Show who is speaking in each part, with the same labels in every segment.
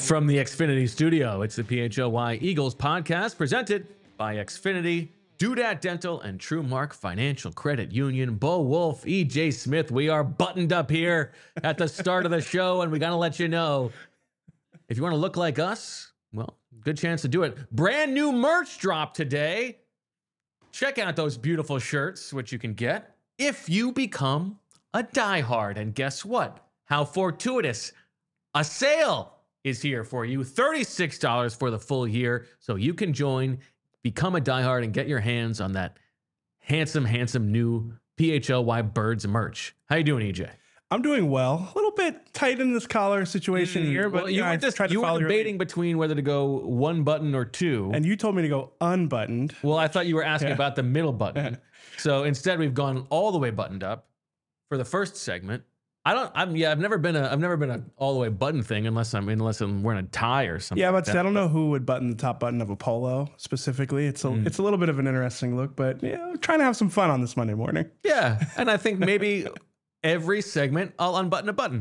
Speaker 1: From the Xfinity studio, it's the PHLY Eagles podcast presented by Xfinity, Dudat Dental, and TrueMark Financial Credit Union. Bo Wolf, EJ Smith, we are buttoned up here at the start of the show, and we got to let you know, if you want to look like us, well, good chance to do it. Brand new merch drop today. Check out those beautiful shirts, which you can get if you become a diehard. And guess what? How fortuitous. A sale is here for you. $36 for the full year. So you can join, become a diehard, and get your hands on that handsome, handsome new PHLY Birds merch. How you doing, EJ?
Speaker 2: I'm doing well. A little bit tight in this collar situation here, but
Speaker 1: well, you were debating between whether to go one button or two.
Speaker 2: And you told me to go unbuttoned.
Speaker 1: Well, I thought you were asking about the middle button. So instead, we've gone all the way buttoned up for the first segment. I've never been a all the way button thing unless I'm wearing a tie or something.
Speaker 2: Yeah, but I don't know who would button the top button of a polo specifically. It's a little bit of an interesting look, but yeah, we're trying to have some fun on this Monday morning.
Speaker 1: Yeah, and I think maybe every segment I'll unbutton a button.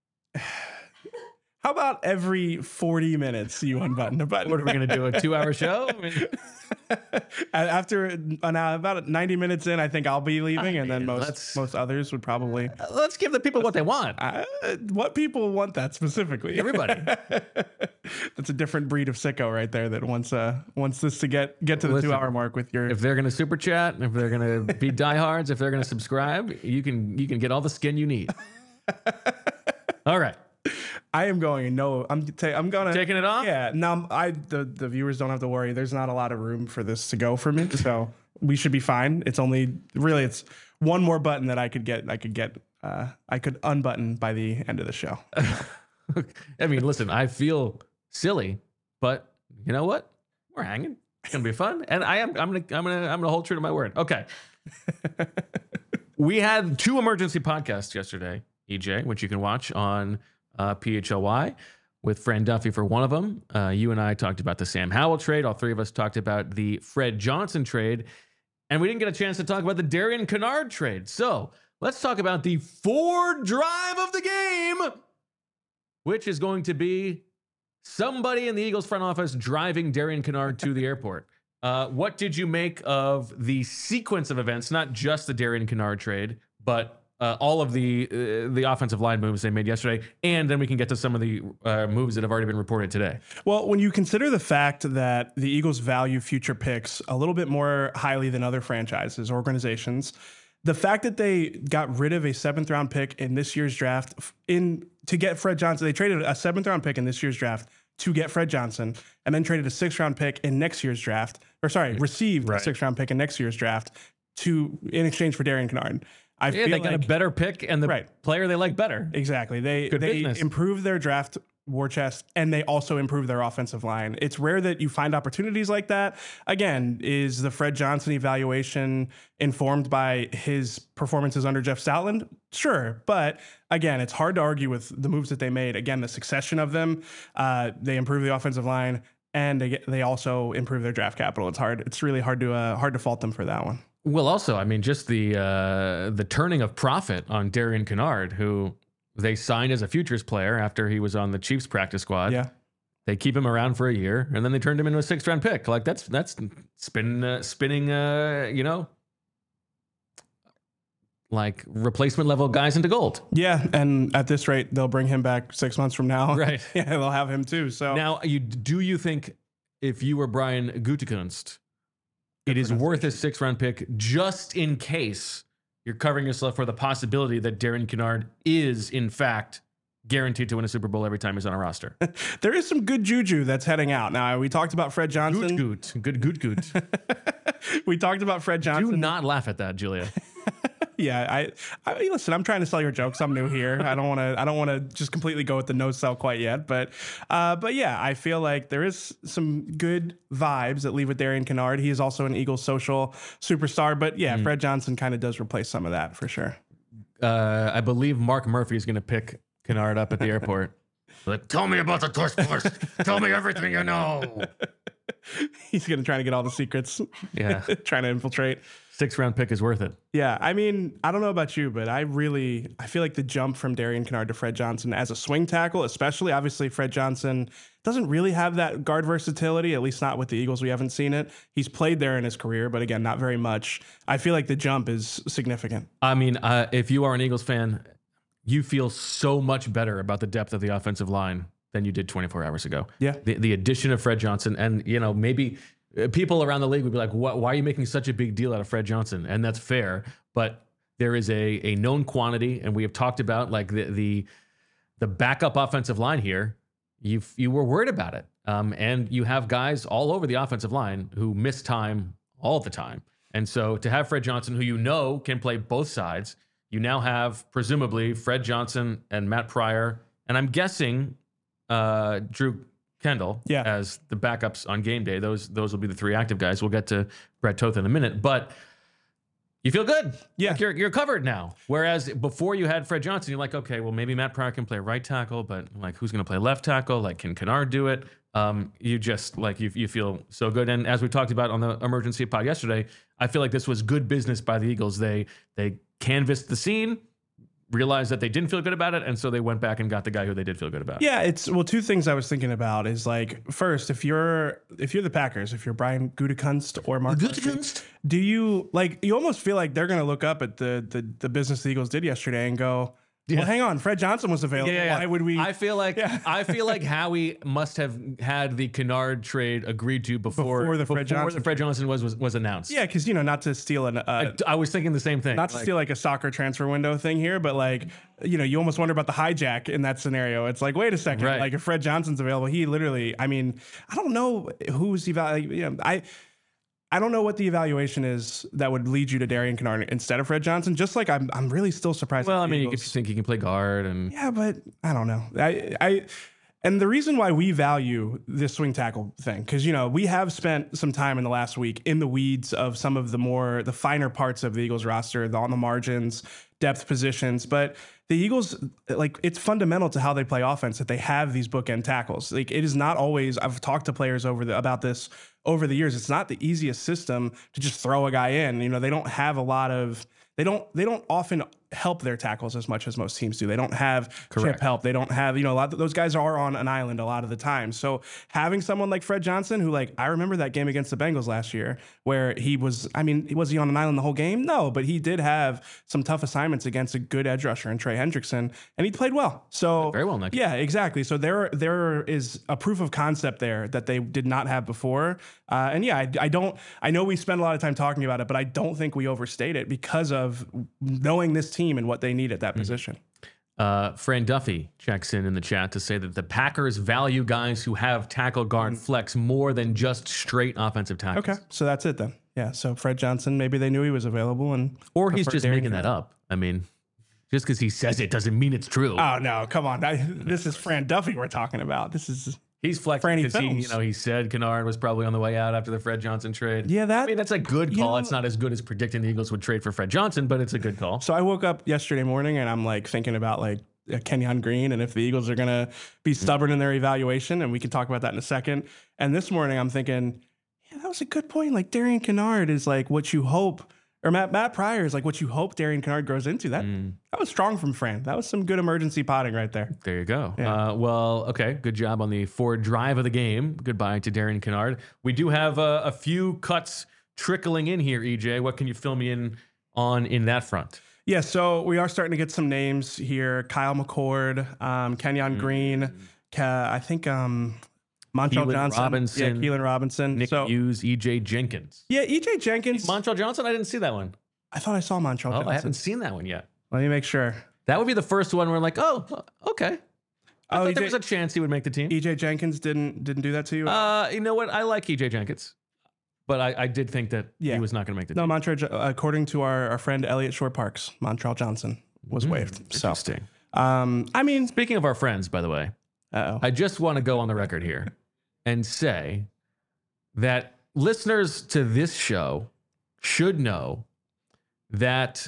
Speaker 2: How about every 40 minutes you unbutton a button?
Speaker 1: What are we going to do, a 2-hour show? I mean,
Speaker 2: after about 90 minutes in, I think I'll be leaving, and then most others would probably...
Speaker 1: Let's give the people what they want.
Speaker 2: What people want that specifically?
Speaker 1: Everybody.
Speaker 2: That's a different breed of sicko right there that wants this to get to the 2-hour mark with your...
Speaker 1: If they're going to super chat, if they're going to be diehards, if they're going to subscribe, you can get all the skin you need. All right.
Speaker 2: I am going. No, I'm gonna
Speaker 1: taking it off.
Speaker 2: Yeah. Now the viewers don't have to worry. There's not a lot of room for this to go for me, so we should be fine. It's one more button that I could unbutton by the end of the show.
Speaker 1: I mean, listen, I feel silly, but you know what? We're hanging. It's gonna be fun, and I'm gonna hold true to my word. Okay. We had 2 emergency podcasts yesterday, EJ, which you can watch on PHLY with Fran Duffy for one of them. You and I talked about the Sam Howell trade. All 3 of us talked about the Fred Johnson trade. And we didn't get a chance to talk about the Darian Kinnard trade. So let's talk about the Ford drive of the game, which is going to be somebody in the Eagles front office driving Darian Kinnard to the airport. What did you make of the sequence of events, not just the Darian Kinnard trade, but all of the offensive line moves they made yesterday, and then we can get to some of the moves that have already been reported today.
Speaker 2: Well, when you consider the fact that the Eagles value future picks a little bit more highly than other franchises, organizations, the fact that they got rid of a 7th-round pick in this year's draft to get Fred Johnson, they traded a 7th-round pick in this year's draft to get Fred Johnson, and then traded a 6th-round pick in next year's draft, received a 6th-round pick in next year's draft in exchange for Darian Kinnard.
Speaker 1: They got a better pick and the player they like better.
Speaker 2: Exactly. They improved their draft war chest, and they also improved their offensive line. It's rare that you find opportunities like that. Again, is the Fred Johnson evaluation informed by his performances under Jeff Stoutland? Sure. But again, it's hard to argue with the moves that they made. Again, the succession of them, they improved the offensive line, and they also improved their draft capital. It's really hard to fault them for that one.
Speaker 1: Well, also, I mean, just the turning of profit on Darian Kinnard, who they signed as a futures player after he was on the Chiefs practice squad.
Speaker 2: Yeah,
Speaker 1: they keep him around for a year, and then they turned him into a 6th-round pick. Like that's spinning, like replacement level guys into gold.
Speaker 2: Yeah, and at this rate, they'll bring him back 6 months from now.
Speaker 1: Right?
Speaker 2: Yeah, they'll have him too. So
Speaker 1: now, do you think if you were Brian Gutekunst, it is worth a 6th-round pick just in case you're covering yourself for the possibility that Darian Kinnard is, in fact, guaranteed to win a Super Bowl every time he's on a roster?
Speaker 2: There is some good juju that's heading out. Now, we talked about Fred Johnson.
Speaker 1: Good.
Speaker 2: We talked about Fred Johnson.
Speaker 1: Do not laugh at that, Julia.
Speaker 2: Yeah, I listen, I'm trying to sell your jokes. I'm new here. I don't want to just completely go with the no sell quite yet, but yeah, I feel like there is some good vibes that leave with Darian Kinnard. He is also an Eagles social superstar, but yeah, Fred Johnson kind of does replace some of that for sure.
Speaker 1: I believe Mark Murphy is going to pick Kinnard up at the airport. Like, tell me about the tush push. Tell me everything you know.
Speaker 2: He's going to try to get all the secrets.
Speaker 1: Yeah.
Speaker 2: Trying to infiltrate.
Speaker 1: 6th round pick is worth it.
Speaker 2: Yeah, I mean, I don't know about you, but I feel like the jump from Darian Kinnard to Fred Johnson as a swing tackle, especially, obviously Fred Johnson doesn't really have that guard versatility, at least not with the Eagles. We haven't seen it. He's played there in his career, but again, not very much. I feel like the jump is significant.
Speaker 1: I mean, if you are an Eagles fan, you feel so much better about the depth of the offensive line than you did 24 hours ago.
Speaker 2: Yeah.
Speaker 1: The addition of Fred Johnson, and maybe people around the league would be like, why are you making such a big deal out of Fred Johnson? And that's fair, but there is a known quantity, and we have talked about like the backup offensive line here. You were worried about it, and you have guys all over the offensive line who miss time all the time. And so to have Fred Johnson, who can play both sides, you now have presumably Fred Johnson and Matt Pryor, and I'm guessing Drew Kendall as the backups on game day. Those will be the 3 active guys. We'll get to Brett Toth in a minute, but you feel good. Yeah. Like you're covered now. Whereas before you had Fred Johnson, you're like, okay, well, maybe Matt Pryor can play right tackle, but like, who's going to play left tackle? Like, can Kinnard do it? You just like, you feel so good. And as we talked about on the emergency pod yesterday, I feel like this was good business by the Eagles. They canvassed the scene, realized that they didn't feel good about it, and so they went back and got the guy who they did feel good about.
Speaker 2: Yeah, 2 things I was thinking about is like, first, if you're the Packers, if you're Brian Gutekunst or Mark Gutekunst, do you you almost feel like they're going to look up at the business the Eagles did yesterday and go, well, hang on, Fred Johnson was available. Yeah. Why would we?
Speaker 1: I feel like Howie must have had the Kinnard trade agreed to before the Fred Johnson was announced.
Speaker 2: Yeah, because not to steal
Speaker 1: I was thinking the same thing.
Speaker 2: Not to steal like a soccer transfer window thing here, but like you almost wonder about the hijack in that scenario. It's like, wait a second,
Speaker 1: right.
Speaker 2: Like if Fred Johnson's available, he literally. I mean, I don't know who's evaluating. I don't know what the evaluation is that would lead you to Darian Kinnard instead of Fred Johnson. Just like I'm really still surprised.
Speaker 1: Well, I mean, you could think he can play guard, and
Speaker 2: yeah, but I don't know. And the reason why we value this swing tackle thing, because we have spent some time in the last week in the weeds of some of the finer parts of the Eagles roster, on the margins, depth positions, but the Eagles, like, it's fundamental to how they play offense that they have these bookend tackles. Like, it is not always. I've talked to players about this over the years. It's not the easiest system to just throw a guy in. They don't have a lot of. They don't often help their tackles as much as most teams do. They don't have chip help. They don't have, a lot of those guys are on an island a lot of the time. So having someone like Fred Johnson, who, like, I remember that game against the Bengals last year where was he on an island the whole game? No, but he did have some tough assignments against a good edge rusher in Trey Hendrickson, and he played well. So
Speaker 1: very well, Nick.
Speaker 2: Yeah, exactly. So there is a proof of concept there that they did not have before. And yeah, I know we spend a lot of time talking about it, but I don't think we overstate it because of knowing this team and what they need at that position.
Speaker 1: Fran Duffy checks in the chat to say that the Packers value guys who have tackle guard flex more than just straight offensive tackles.
Speaker 2: Okay, so that's it then. Yeah, so Fred Johnson, maybe they knew he was available,
Speaker 1: or he's just making that up. I mean, just because he says it doesn't mean it's true.
Speaker 2: Oh no, come on! This is Fran Duffy we're talking about.
Speaker 1: He's flexing because he said Kinnard was probably on the way out after the Fred Johnson trade.
Speaker 2: Yeah,
Speaker 1: that's a good call. It's not as good as predicting the Eagles would trade for Fred Johnson, but it's a good call.
Speaker 2: So I woke up yesterday morning and I'm like thinking about like Kenyon Green and if the Eagles are gonna be stubborn in their evaluation, and we can talk about that in a second. And this morning I'm thinking, yeah, that was a good point. Like Darian Kinnard is like what you hope. Or Matt Pryor is like what you hope Darian Kinnard grows into. That was strong from Fran. That was some good emergency potting right there.
Speaker 1: There you go. Yeah. Well, okay. Good job on the forward drive of the game. Goodbye to Darian Kinnard. We do have a few cuts trickling in here, EJ. What can you fill me in on in that front?
Speaker 2: Yeah, so we are starting to get some names here. Kyle McCord, Kenyon Green, I think Montrell Johnson. Keelan Robinson.
Speaker 1: Nick Hughes, EJ Jenkins.
Speaker 2: Yeah, EJ Jenkins.
Speaker 1: Montrell Johnson? I didn't see that one.
Speaker 2: I thought I saw Montrell Johnson.
Speaker 1: I haven't seen that one yet.
Speaker 2: Let me make sure.
Speaker 1: That would be the first one where we're like, oh, okay. I thought there was a chance he would make the team.
Speaker 2: EJ Jenkins didn't do that to you?
Speaker 1: You know what? I like EJ Jenkins. But I did think that he was not going to make the team.
Speaker 2: No, according to our friend Elliot Shore Parks, Montrell Johnson was waived.
Speaker 1: Interesting.
Speaker 2: So,
Speaker 1: speaking of our friends, by the way, I just want to go on the record here and say that listeners to this show should know that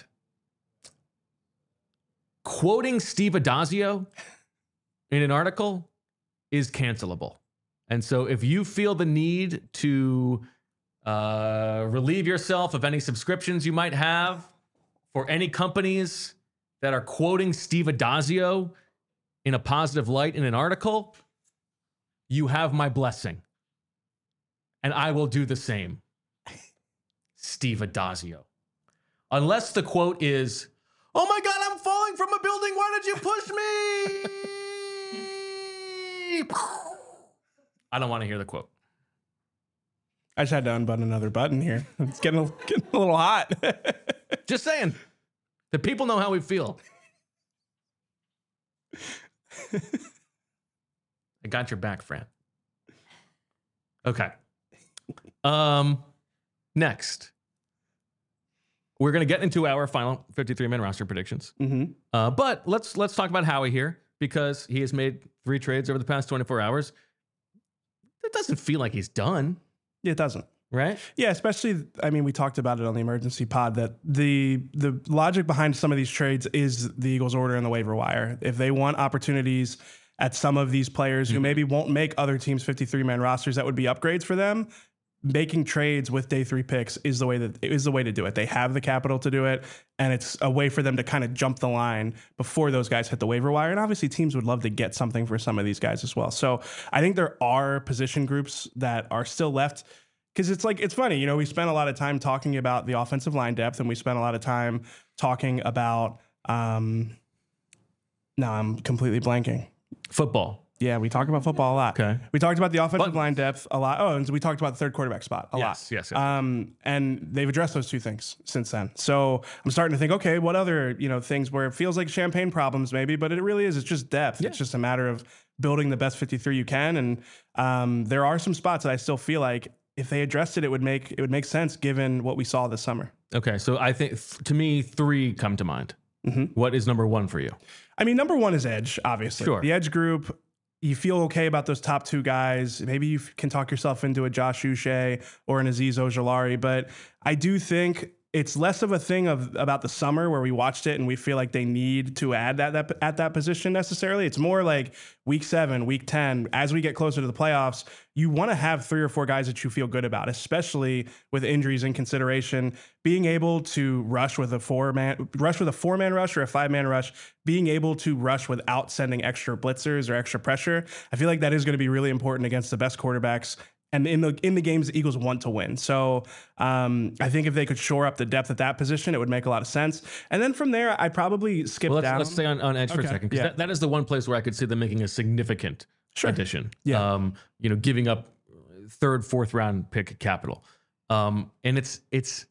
Speaker 1: quoting Steve Addazio in an article is cancelable. And so if you feel the need to relieve yourself of any subscriptions you might have for any companies that are quoting Steve Addazio in a positive light in an article, you have my blessing. And I will do the same. Steve Addazio. Unless the quote is, "Oh my God, I'm falling from a building. Why did you push me?" I don't want to hear the quote.
Speaker 2: I just had to unbutton another button here. It's getting a little hot.
Speaker 1: Just saying. The people know how we feel. I got your back, Fran. Okay. Next, we're going to get into our final 53-man roster predictions. But let's talk about Howie here, because he has made 3 trades over the past 24 hours. It doesn't feel like he's done.
Speaker 2: It doesn't.
Speaker 1: Right?
Speaker 2: Yeah, especially, I mean, we talked about it on the emergency pod that the logic behind some of these trades is the Eagles' order in the waiver wire. If they want opportunities at some of these players who maybe won't make other teams' 53-man rosters that would be upgrades for them, making trades with day 3 picks is the way to do it. They have the capital to do it, and it's a way for them to kind of jump the line before those guys hit the waiver wire. And obviously teams would love to get something for some of these guys as well. So I think there are position groups that are still left, because it's funny, you know, we spent a lot of time talking about the offensive line depth, and we spent a lot of time talking about now I'm completely blanking.
Speaker 1: Football.
Speaker 2: Yeah, we talked about football a lot.
Speaker 1: Okay.
Speaker 2: We talked about the offensive line depth a lot. Oh, and we talked about the third quarterback spot a lot.
Speaker 1: Yes.
Speaker 2: And they've addressed those 2 things since then. So I'm starting to think, okay, what other, things where it feels like champagne problems maybe, but it really is. It's just depth. Yeah. It's just a matter of building the best 53 you can. And there are some spots that I still feel like if they addressed it, it would make sense given what we saw this summer.
Speaker 1: Okay, so I think to me 3 come to mind. What is number 1 for you?
Speaker 2: I mean, number 1 is edge, obviously.
Speaker 1: Sure.
Speaker 2: The edge group. You feel okay about those top 2 guys. Maybe you can talk yourself into a Josh Uche or an Azeez Ojulari, but I do think it's less of a thing about the summer where we watched it and we feel like they need to add that at that position necessarily. It's more like week 7, week 10, as we get closer to the playoffs, you want to have 3 or 4 guys that you feel good about, especially with injuries in consideration. Being able to rush with a 4-man rush or a 5-man rush, being able to rush without sending extra blitzers or extra pressure. I feel like that is going to be really important against the best quarterbacks and in the games the Eagles want to win. So I think if they could shore up the depth at that position, it would make a lot of sense. And then from there, I'd probably skip down.
Speaker 1: Let's stay on edge for a second, because that is the one place where I could see them making a significant addition. Yeah. Giving up 3rd, 4th round pick capital. And it's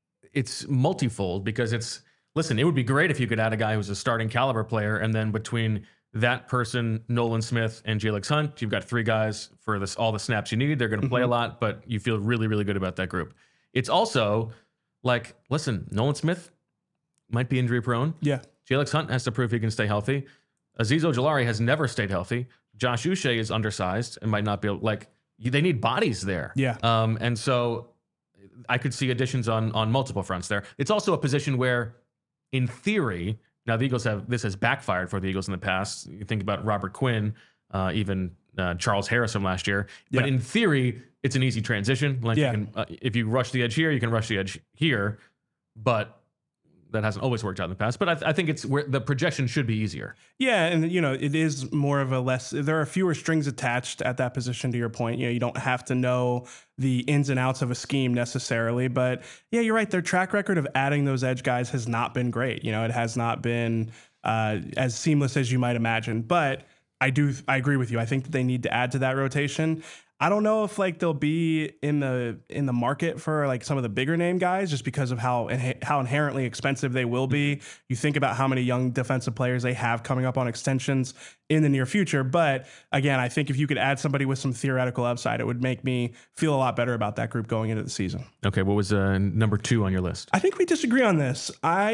Speaker 1: multifold, because it would be great if you could add a guy who's a starting caliber player, and then between that person, Nolan Smith, and Jalix Hunt, you've got 3 guys for all the snaps you need. They're going to play a lot, but you feel really, really good about that group. It's also like, listen, Nolan Smith might be injury prone.
Speaker 2: Yeah.
Speaker 1: Jalix Hunt has to prove he can stay healthy. Azeez Ojulari has never stayed healthy. Josh Uche is undersized and might not be able, they need bodies there.
Speaker 2: Yeah.
Speaker 1: And so I could see additions on multiple fronts there. It's also a position where, in theory, now the Eagles this has backfired for the Eagles in the past. You think about Robert Quinn, even Charles Harris from last year. But in theory, it's an easy transition. You can, if you rush the edge here, you can rush the edge here. But that hasn't always worked out in the past. But I think it's where the projection should be easier.
Speaker 2: Yeah, and it is more of there are fewer strings attached at that position, to your point. You don't have to know the ins and outs of a scheme necessarily. But yeah, you're right. Their track record of adding those edge guys has not been great. It has not been as seamless as you might imagine. But I agree with you. I think that they need to add to that rotation. I don't know if they'll be in the market for some of the bigger name guys, just because of how inherently expensive they will be. You think about how many young defensive players they have coming up on extensions in the near future. But again, I think if you could add somebody with some theoretical upside, it would make me feel a lot better about that group going into the season.
Speaker 1: Okay, what was number 2 on your list?
Speaker 2: I think we disagree on this.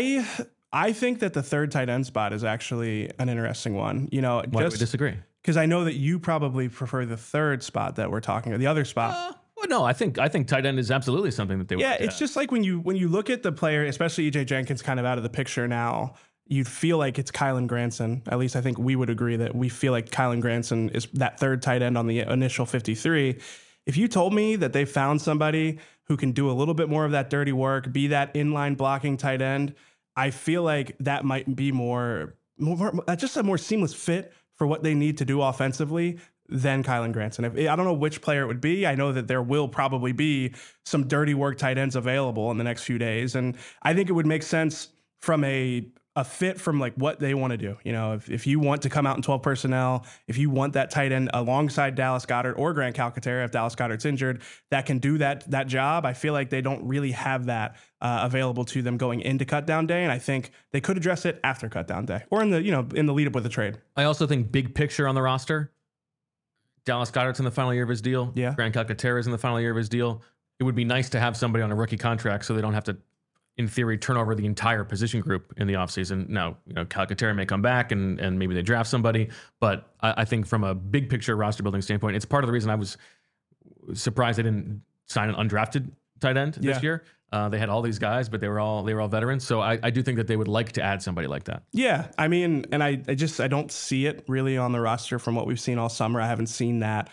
Speaker 2: I think that the 3rd tight end spot is actually an interesting one.
Speaker 1: Why do we disagree?
Speaker 2: Because I know that you probably prefer the 3rd spot that we're talking about, the other spot.
Speaker 1: Well, no, I think tight end is absolutely something that they would.
Speaker 2: Yeah, it's just like when you look at the player, especially EJ Jenkins kind of out of the picture now, you'd feel like it's Kylen Granson. At least I think we would agree that we feel like Kylen Granson is that third tight end on the initial 53. If you told me that they found somebody who can do a little bit more of that dirty work, be that inline blocking tight end, I feel like that might be more just a more seamless fit for what they need to do offensively than Kylen Granson. I don't know which player it would be. I know that there will probably be some dirty work tight ends available in the next few days. And I think it would make sense from a fit from like what they want to do. You know, if you want to come out in 12 personnel, if you want that tight end alongside Dallas Goedert or Grant Calcaterra, if Dallas Goedert's injured, that can do that job. I feel like they don't really have that available to them going into cutdown day. And I think they could address it after cutdown day or in the lead up with the trade.
Speaker 1: I also think big picture on the roster, Dallas Goedert's in the final year of his deal.
Speaker 2: Yeah.
Speaker 1: Grant Calcaterra's in the final year of his deal. It would be nice to have somebody on a rookie contract so they don't have to, in theory, turn over the entire position group in the offseason. Now, Calcaterra may come back and maybe they draft somebody, but I think from a big picture roster building standpoint, it's part of the reason I was surprised they didn't sign an undrafted tight end this year. They had all these guys, but they were all veterans. So I do think that they would like to add somebody like that.
Speaker 2: Yeah, I mean, and I don't see it really on the roster from what we've seen all summer. I haven't seen that.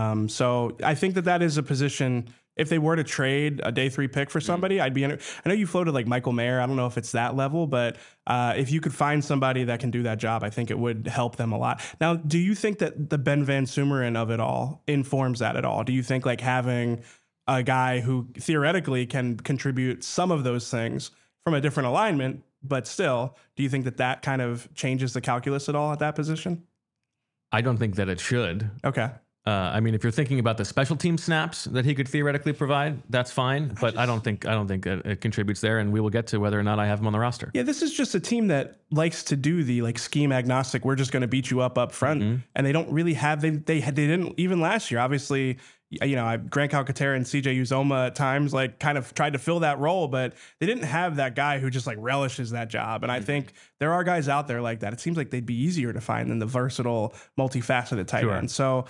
Speaker 2: So I think that is a position. If they were to trade a day 3 pick for somebody, I'd be in it. I know you floated like Michael Mayer. I don't know if it's that level, but if you could find somebody that can do that job, I think it would help them a lot. Now, do you think that the Ben Van Sumeren of it all informs that at all? Do you think like having a guy who theoretically can contribute some of those things from a different alignment, but still, do you think that kind of changes the calculus at all at that position?
Speaker 1: I don't think that it should.
Speaker 2: Okay.
Speaker 1: I mean, if you're thinking about the special team snaps that he could theoretically provide, that's fine. But I don't think it contributes there, and we will get to whether or not I have him on the roster.
Speaker 2: Yeah, this is just a team that likes to do the like scheme agnostic. We're just going to beat you up front, and they don't really have. They didn't even last year. Obviously, Grant Calcaterra and CJ Uzoma at times like kind of tried to fill that role, but they didn't have that guy who just like relishes that job. And I think there are guys out there like that. It seems like they'd be easier to find than the versatile, multifaceted tight end. So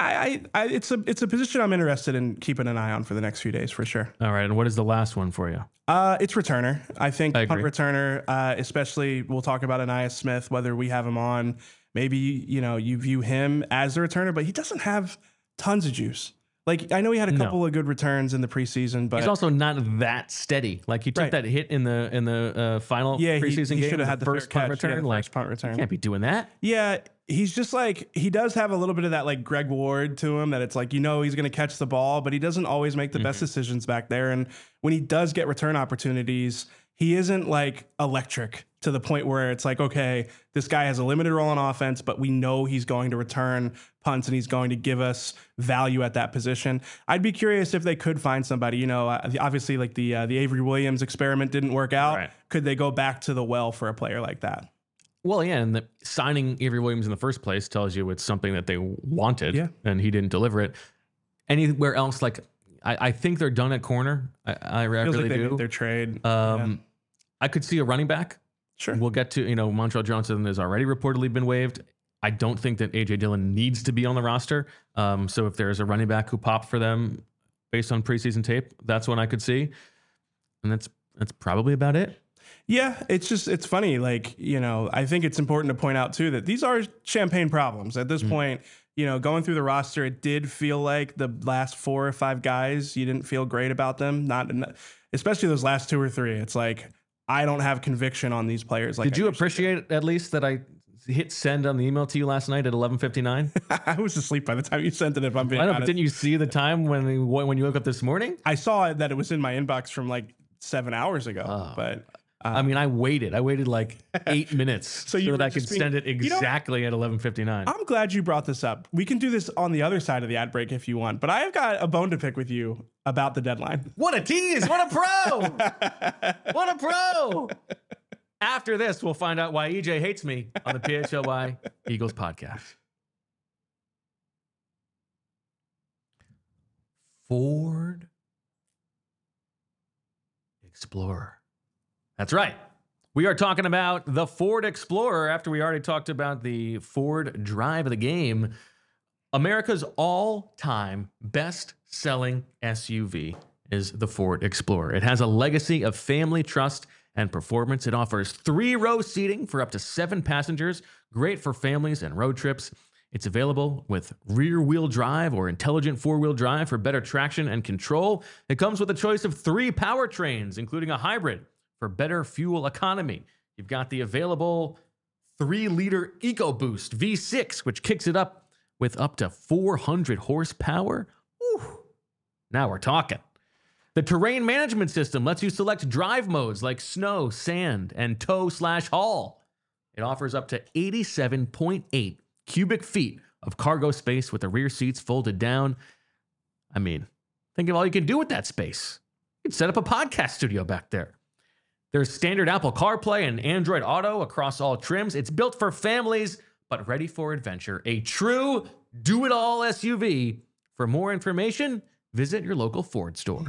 Speaker 2: it's a position I'm interested in keeping an eye on for the next few days for sure.
Speaker 1: All right. And what is the last one for you?
Speaker 2: It's returner. I think punt returner, especially we'll talk about Ainias Smith, whether we have him on. Maybe, you view him as a returner, but he doesn't have tons of juice. Like, I know he had a couple of good returns in the preseason, but
Speaker 1: he's also not that steady. Like, he took that hit in the final preseason game.
Speaker 2: He should have had the first punt return.
Speaker 1: Like,
Speaker 2: punt return.
Speaker 1: You can't be doing that.
Speaker 2: Yeah, he's just like, he does have a little bit of that like Greg Ward to him, that it's like, he's going to catch the ball, but he doesn't always make the best decisions back there. And when he does get return opportunities, he isn't like electric to the point where it's like, okay, this guy has a limited role on offense, but we know he's going to return punts and he's going to give us value at that position. I'd be curious if they could find somebody, obviously like the Avery Williams experiment didn't work out. Right. Could they go back to the well for a player like that?
Speaker 1: Well, yeah, and signing Avery Williams in the first place tells you it's something that they wanted, and he didn't deliver it. Anywhere else, like, I think they're done at corner. I really do.
Speaker 2: Made their trade.
Speaker 1: I could see a running back.
Speaker 2: Sure.
Speaker 1: We'll get to, Montrell Johnson has already reportedly been waived. I don't think that A.J. Dillon needs to be on the roster. So if there's a running back who popped for them based on preseason tape, that's one I could see. And that's probably about it.
Speaker 2: Yeah, it's funny. Like, I think it's important to point out too that these are champagne problems at this point. Going through the roster, it did feel like the last 4 or 5 guys, you didn't feel great about them. Not especially those last 2 or 3. It's like, I don't have conviction on these players. Like,
Speaker 1: did you appreciate at least that I hit send on the email to you last night at 11:59?
Speaker 2: I was asleep by the time you sent it. If I'm being honest.
Speaker 1: But didn't you see the time when you woke up this morning?
Speaker 2: I saw that it was in my inbox from like 7 hours ago. But
Speaker 1: I waited like 8 minutes so that I could send it exactly at 11:59.
Speaker 2: I'm glad you brought this up. We can do this on the other side of the ad break if you want, but I've got a bone to pick with you about the deadline.
Speaker 1: What a tease! What a pro! What a pro! After this, we'll find out why EJ hates me on the PHLY Eagles podcast. Ford Explorer. That's right. We are talking about the Ford Explorer after we already talked about the Ford Drive of the game. America's all-time best-selling SUV is the Ford Explorer. It has a legacy of family trust and performance. It offers 3-row seating for up to 7 passengers, great for families and road trips. It's available with rear-wheel drive or intelligent 4-wheel drive for better traction and control. It comes with a choice of 3 powertrains, including a hybrid for better fuel economy. You've got the available 3-liter EcoBoost V6, which kicks it up with up to 400 horsepower. Whew. Now we're talking. The terrain management system lets you select drive modes like snow, sand, and tow/haul. It offers up to 87.8 cubic feet of cargo space with the rear seats folded down. I mean, think of all you can do with that space. You can set up a podcast studio back there. There's standard Apple CarPlay and Android Auto across all trims. It's built for families, but ready for adventure. A true do-it-all SUV. For more information, visit your local Ford store.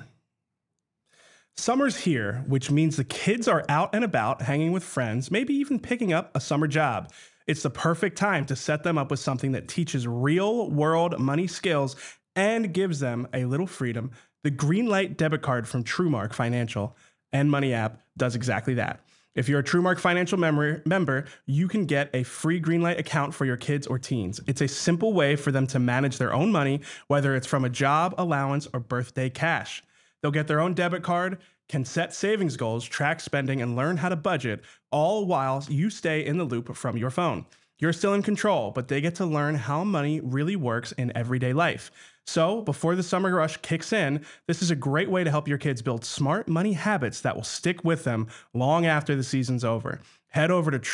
Speaker 2: Summer's here, which means the kids are out and about, hanging with friends, maybe even picking up a summer job. It's the perfect time to set them up with something that teaches real-world money skills and gives them a little freedom. The Greenlight debit card from TrueMark Financial and Money app does exactly that. If you're a TrueMark Financial member, you can get a free Greenlight account for your kids or teens. It's a simple way for them to manage their own money, whether it's from a job, allowance, or birthday cash. They'll get their own debit card, can set savings goals, track spending, and learn how to budget, all while you stay in the loop from your phone. You're still in control, but they get to learn how money really works in everyday life. So before the summer rush kicks in, this is a great way to help your kids build smart money habits that will stick with them long after the season's over. Head over to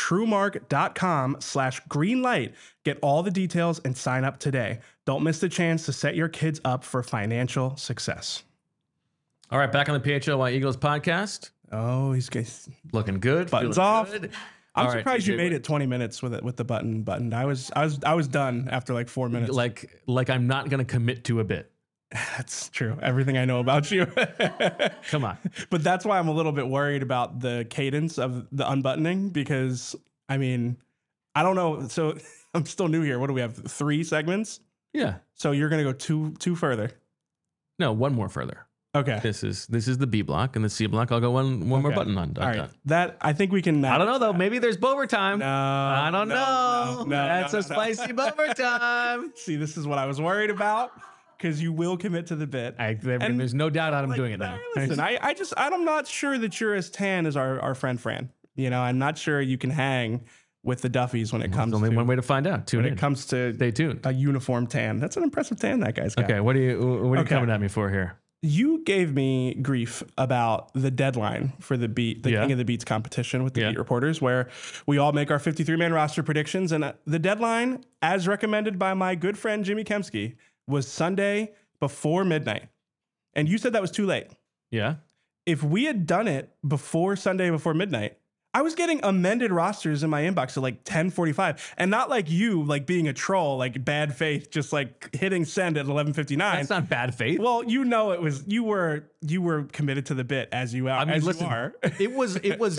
Speaker 2: truemark.com/greenlight. Get all the details and sign up today. Don't miss the chance to set your kids up for financial success.
Speaker 1: All right, back on the PHLY Eagles podcast.
Speaker 2: Oh, he's
Speaker 1: looking good.
Speaker 2: Buttons off.
Speaker 1: Good.
Speaker 2: I'm surprised you made it 20 minutes with the button buttoned. I was done after like 4 minutes.
Speaker 1: Like I'm not gonna commit to a bit.
Speaker 2: That's true. Everything I know about you.
Speaker 1: Come on.
Speaker 2: But that's why I'm a little bit worried about the cadence of the unbuttoning, because I mean, I don't know. So I'm still new here. What do we have? 3 segments?
Speaker 1: Yeah.
Speaker 2: So you're gonna go two further.
Speaker 1: No, one more further.
Speaker 2: Okay.
Speaker 1: This is the B block, and the C block I'll go one more button on.
Speaker 2: All right. That I think we can.
Speaker 1: I don't know though. Maybe there's Bover time.
Speaker 2: No.
Speaker 1: I don't know. That's a spicy Bover time.
Speaker 2: See, this is what I was worried about, because you will commit to the bit.
Speaker 1: There's no doubt I'm doing it now.
Speaker 2: Listen, I'm not sure that you're as tan as our friend Fran. You know, I'm not sure you can hang with the Duffys when it comes.
Speaker 1: There's only one way to find out. When
Speaker 2: it comes to
Speaker 1: stay tuned.
Speaker 2: A uniform tan. That's an impressive tan that guy's got.
Speaker 1: Okay, what are you coming at me for here?
Speaker 2: You gave me grief about the deadline for the King of the Beats competition with the beat reporters, where we all make our 53-man roster predictions. And the deadline, as recommended by my good friend Jimmy Kemsky, was Sunday before midnight. And you said that was too late.
Speaker 1: Yeah.
Speaker 2: If we had done it before Sunday before midnight, I was getting amended rosters in my inbox at like 10:45, and not like you, like being a troll, like bad faith, just like hitting send at 11:59.
Speaker 1: That's not bad faith.
Speaker 2: Well, you know, it was you were committed to the bit as you are.
Speaker 1: I mean,
Speaker 2: as
Speaker 1: listen,
Speaker 2: you are.
Speaker 1: it was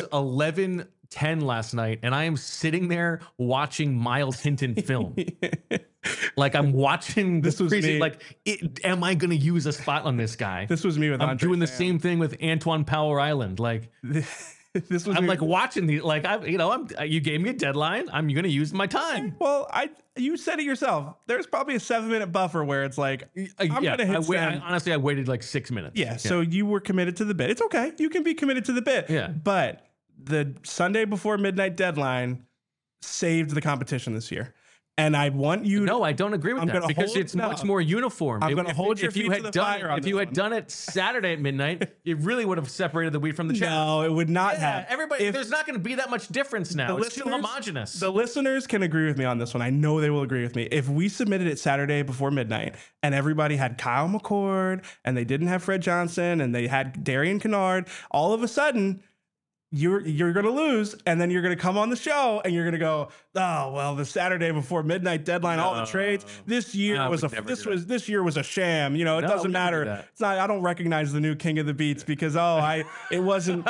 Speaker 1: 11:10 last night, and I am sitting there watching Miles Hinton film. Like I'm watching
Speaker 2: this was
Speaker 1: crazy,
Speaker 2: me.
Speaker 1: like, am I going to use a spot on this guy?
Speaker 2: This was me with.
Speaker 1: I'm doing the same thing with Antoine Power Island, like.
Speaker 2: This was
Speaker 1: I'm like watching the you gave me a deadline. I'm going to use my time.
Speaker 2: Well, you said it yourself. There's probably a 7-minute buffer where it's like I'm gonna hit send.
Speaker 1: Honestly, I waited like 6 minutes.
Speaker 2: Yeah, so you were committed to the bit. It's okay. You can be committed to the bit.
Speaker 1: Yeah.
Speaker 2: But the Sunday before midnight deadline saved the competition this year. And I want you.
Speaker 1: No, I don't agree with that, because it's much more uniform.
Speaker 2: I'm going to hold your feet to the fire on
Speaker 1: If you had done it Saturday at midnight, it really would have separated the wheat from the chaff.
Speaker 2: No, it would not have.
Speaker 1: Everybody, there's not going to be that much difference now. It's too homogenous.
Speaker 2: The listeners can agree with me on this one. I know they will agree with me. If we submitted it Saturday before midnight and everybody had Kyle McCord and they didn't have Fred Johnson and they had Darian Kennard, all of a sudden you're going to lose, and then you're going to come on the show and you're going to go, oh, well, the Saturday before midnight deadline, all the trades. This year was a sham. You know, it doesn't matter. It's not. I don't recognize the new King of the Beats because it wasn't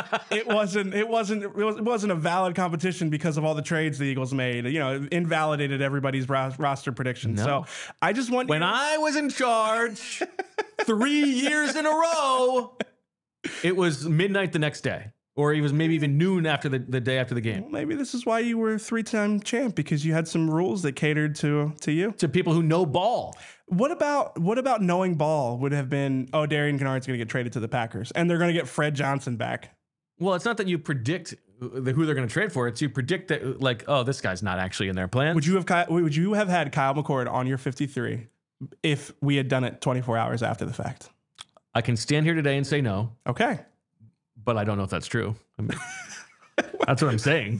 Speaker 2: a valid competition because of all the trades the Eagles made. You know, it invalidated everybody's roster predictions.
Speaker 1: No.
Speaker 2: So I just want
Speaker 1: I was in charge 3 years in a row, it was midnight the next day. Or he was maybe even noon after the day after the game.
Speaker 2: Well, maybe this is why you were 3-time champ, because you had some rules that catered to you.
Speaker 1: To people who know ball.
Speaker 2: What about knowing ball would have been, oh, Darian Kinnard's going to get traded to the Packers, and they're going to get Fred Johnson back.
Speaker 1: Well, it's not that you predict who they're going to trade for. It's you predict that, like, oh, this guy's not actually in their plans.
Speaker 2: Would you have had Kyle McCord on your 53 if we had done it 24 hours after the fact?
Speaker 1: I can stand here today and say no.
Speaker 2: Okay.
Speaker 1: But I don't know if that's true. I mean, that's what I'm saying.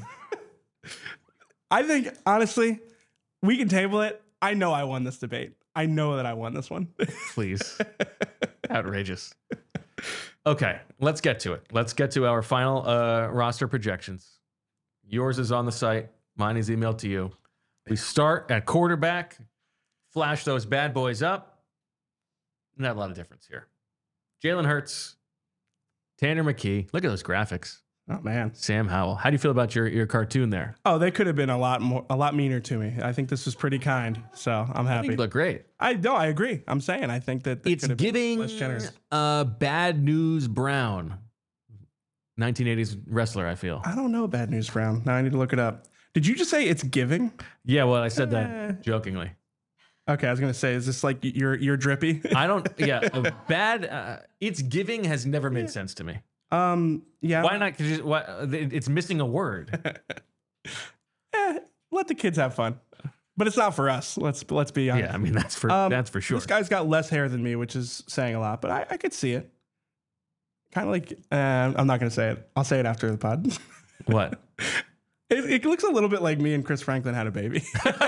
Speaker 2: I think, honestly, we can table it. I know I won this debate. I know that I won this one.
Speaker 1: Please. Outrageous. Okay, let's get to it. Let's get to our final roster projections. Yours is on the site. Mine is emailed to you. We start at quarterback. Flash those bad boys up. Not a lot of difference here. Jalen Hurts. Tanner McKee. Look at those graphics.
Speaker 2: Oh, man.
Speaker 1: Sam Howell. How do you feel about your cartoon there?
Speaker 2: Oh, they could have been a lot meaner to me. I think this was pretty kind, so I'm happy.
Speaker 1: You look great.
Speaker 2: I agree. I'm saying I think that
Speaker 1: it's giving less generous. Bad News Brown, 1980s wrestler. I feel.
Speaker 2: I don't know Bad News Brown. Now I need to look it up. Did you just say it's giving?
Speaker 1: Yeah. Well, I said that jokingly.
Speaker 2: Okay, I was gonna say, is this like you're drippy?
Speaker 1: I don't. Yeah, bad. It's giving has never made sense to me.
Speaker 2: Yeah.
Speaker 1: Why not? It's missing a word.
Speaker 2: Let the kids have fun, but it's not for us. Let's be honest.
Speaker 1: Yeah, I mean that's for sure.
Speaker 2: This guy's got less hair than me, which is saying a lot, but I could see it. Kind of like I'm not gonna say it. I'll say it after the pod.
Speaker 1: What?
Speaker 2: It looks a little bit like me and Chris Franklin had a baby.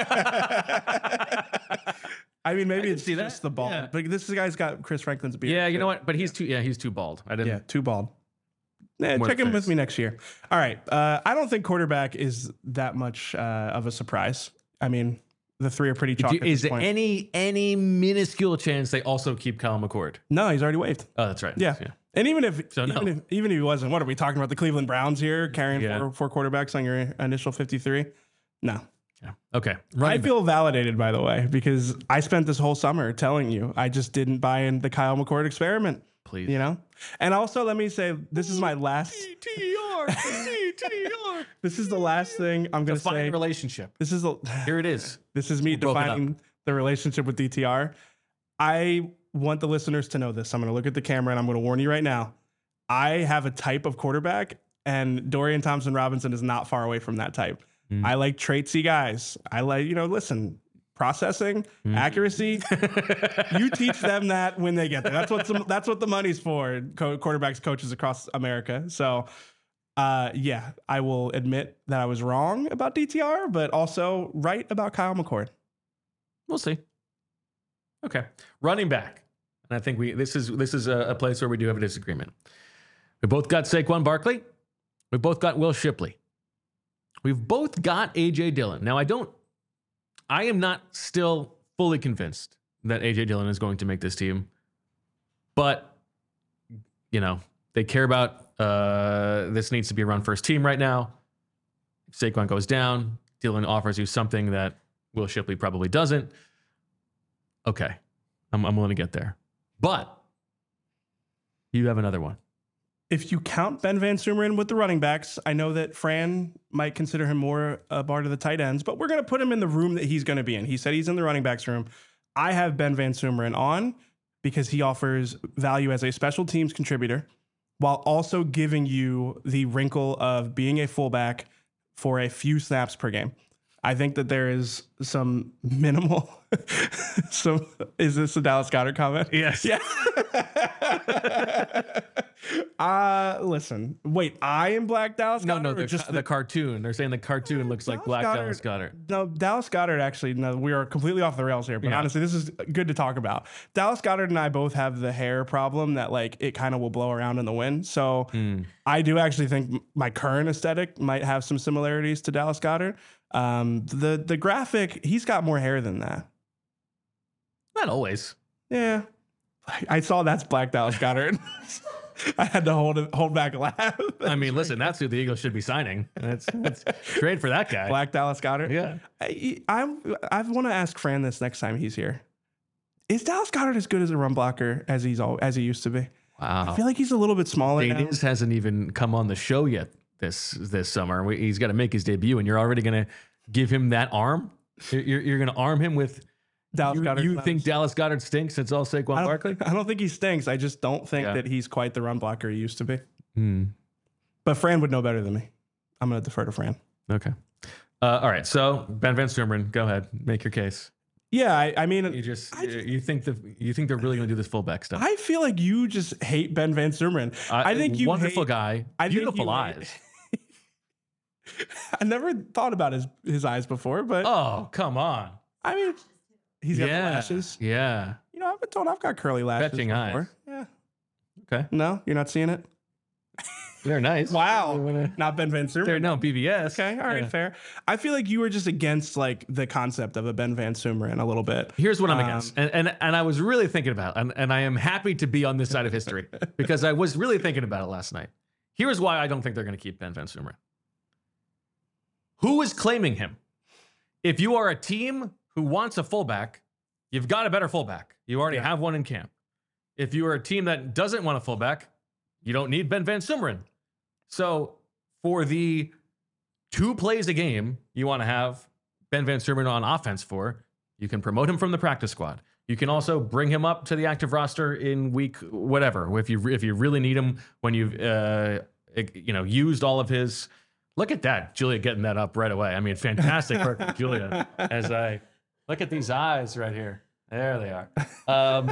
Speaker 2: I mean, maybe it's just the bald, yeah. But this guy's got Chris Franklin's beard.
Speaker 1: Yeah, you know what? But he's too bald.
Speaker 2: Too bald. Check in with me next year. All right. I don't think quarterback is that much of a surprise. I mean, the three are pretty chalk.
Speaker 1: Is there any minuscule chance they also keep Kyle McCord?
Speaker 2: No, he's already waived.
Speaker 1: Oh, that's right.
Speaker 2: Yeah. And even if he wasn't, what are we talking about? The Cleveland Browns here carrying four quarterbacks on your initial 53? No.
Speaker 1: Yeah. Okay.
Speaker 2: I feel validated, by the way, because I spent this whole summer telling you I just didn't buy in the Kyle McCord experiment.
Speaker 1: Please.
Speaker 2: You know? And also, let me say, this is my last...
Speaker 1: DTR.
Speaker 2: This is the last thing I'm going to say.
Speaker 1: Define relationship.
Speaker 2: Here
Speaker 1: it is.
Speaker 2: This is me defining the relationship with DTR. I want the listeners to know this. I'm going to look at the camera and I'm going to warn you right now. I have a type of quarterback, and Dorian Thompson-Robinson is not far away from that type. I like traitsy guys. I like, listen, processing, accuracy. You teach them that when they get there. That's what the money's for, quarterbacks, coaches across America. So, yeah, I will admit that I was wrong about DTR, but also right about Kyle McCord.
Speaker 1: We'll see. Okay, running back, and I think this is a place where we do have a disagreement. We both got Saquon Barkley. We both got Will Shipley. We've both got A.J. Dillon. Now, I am not still fully convinced that A.J. Dillon is going to make this team, but, they care about this needs to be a run-first team right now. If Saquon goes down, Dillon offers you something that Will Shipley probably doesn't. Okay, I'm willing to get there. But you have another one.
Speaker 2: If you count Ben Van Sumeren with the running backs, I know that Fran might consider him more a bar to the tight ends, but we're going to put him in the room that he's going to be in. He said he's in the running backs room. I have Ben Van Sumeren on because he offers value as a special teams contributor while also giving you the wrinkle of being a fullback for a few snaps per game. I think that there is some minimal. Is this a Dallas Goedert comment?
Speaker 1: Yes.
Speaker 2: Yeah. Listen. Wait, I am Black Dallas Goedert?
Speaker 1: No, the cartoon. They're saying the cartoon looks like Black Dallas Goedert.
Speaker 2: No, Dallas Goedert actually, no, we are completely off the rails here, but honestly, this is good to talk about. Dallas Goedert and I both have the hair problem that it kind of will blow around in the wind. So I do actually think my current aesthetic might have some similarities to Dallas Goedert. The graphic, he's got more hair than that.
Speaker 1: Not always.
Speaker 2: Yeah. I saw that's Black Dallas Goedert. I had to hold back a laugh.
Speaker 1: I mean, listen, that's who the Eagles should be signing. Let's trade for that guy.
Speaker 2: Black Dallas Goedert.
Speaker 1: Yeah.
Speaker 2: I want to ask Fran this next time he's here. Is Dallas Goedert as good as a run blocker as he used to be?
Speaker 1: Wow.
Speaker 2: I feel like he's a little bit smaller.
Speaker 1: Danis hasn't even come on the show yet this summer. He's got to make his debut, and you're already going to give him that arm? You're going to arm him with
Speaker 2: Dallas Goedert.
Speaker 1: You think Dallas Goedert stinks since all Saquon Barkley?
Speaker 2: I don't think he stinks. I just don't think that he's quite the run blocker he used to be.
Speaker 1: Hmm.
Speaker 2: But Fran would know better than me. I'm going to defer to Fran.
Speaker 1: Okay. All right. So Ben Van Sumeren, go ahead, make your case.
Speaker 2: Yeah, I mean,
Speaker 1: you think they're really going to do this fullback stuff?
Speaker 2: I feel like you just hate Ben Van Sumeren. I think you
Speaker 1: wonderful guy, beautiful eyes.
Speaker 2: I never thought about his eyes before, but
Speaker 1: oh, come on.
Speaker 2: I mean, he's got the lashes.
Speaker 1: Yeah.
Speaker 2: You know, I've been told I've got curly lashes.
Speaker 1: Fetching eyes.
Speaker 2: Yeah.
Speaker 1: Okay.
Speaker 2: No, you're not seeing it?
Speaker 1: They're nice.
Speaker 2: Wow. Not Ben Van Sumeren.
Speaker 1: They're no BVS.
Speaker 2: Okay. All right. Fair. I feel like you were just against like the concept of a Ben Van Sumeren a little bit.
Speaker 1: Here's what I'm against. And I was really thinking about it, and I am happy to be on this side of history because I was really thinking about it last night. Here's why I don't think they're going to keep Ben Van Sumeren. Who is claiming him? If you are a team who wants a fullback, you've got a better fullback. You already have one in camp. If you are a team that doesn't want a fullback, you don't need Ben Van Sumeren. So for the 2 plays a game you want to have Ben Van Sumeren on offense for, you can promote him from the practice squad. You can also bring him up to the active roster in week whatever. If you really need him when you've used all of his. Look at that, Julia getting that up right away. I mean, fantastic work from Julia. As I look at these eyes right here, there they are.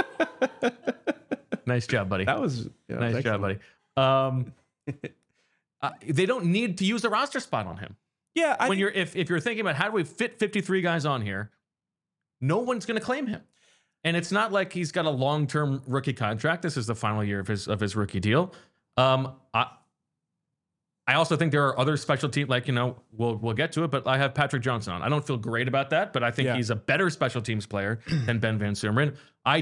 Speaker 1: Nice job, buddy.
Speaker 2: That was
Speaker 1: nice job, buddy. They don't need to use a roster spot on him.
Speaker 2: Yeah,
Speaker 1: if you're thinking about how do we fit 53 guys on here, no one's going to claim him, and it's not like he's got a long-term rookie contract. This is the final year of his rookie deal. I also think there are other special teams, like, we'll get to it, but I have Patrick Johnson on. I don't feel great about that, but I think he's a better special teams player than Ben Van Sumeren.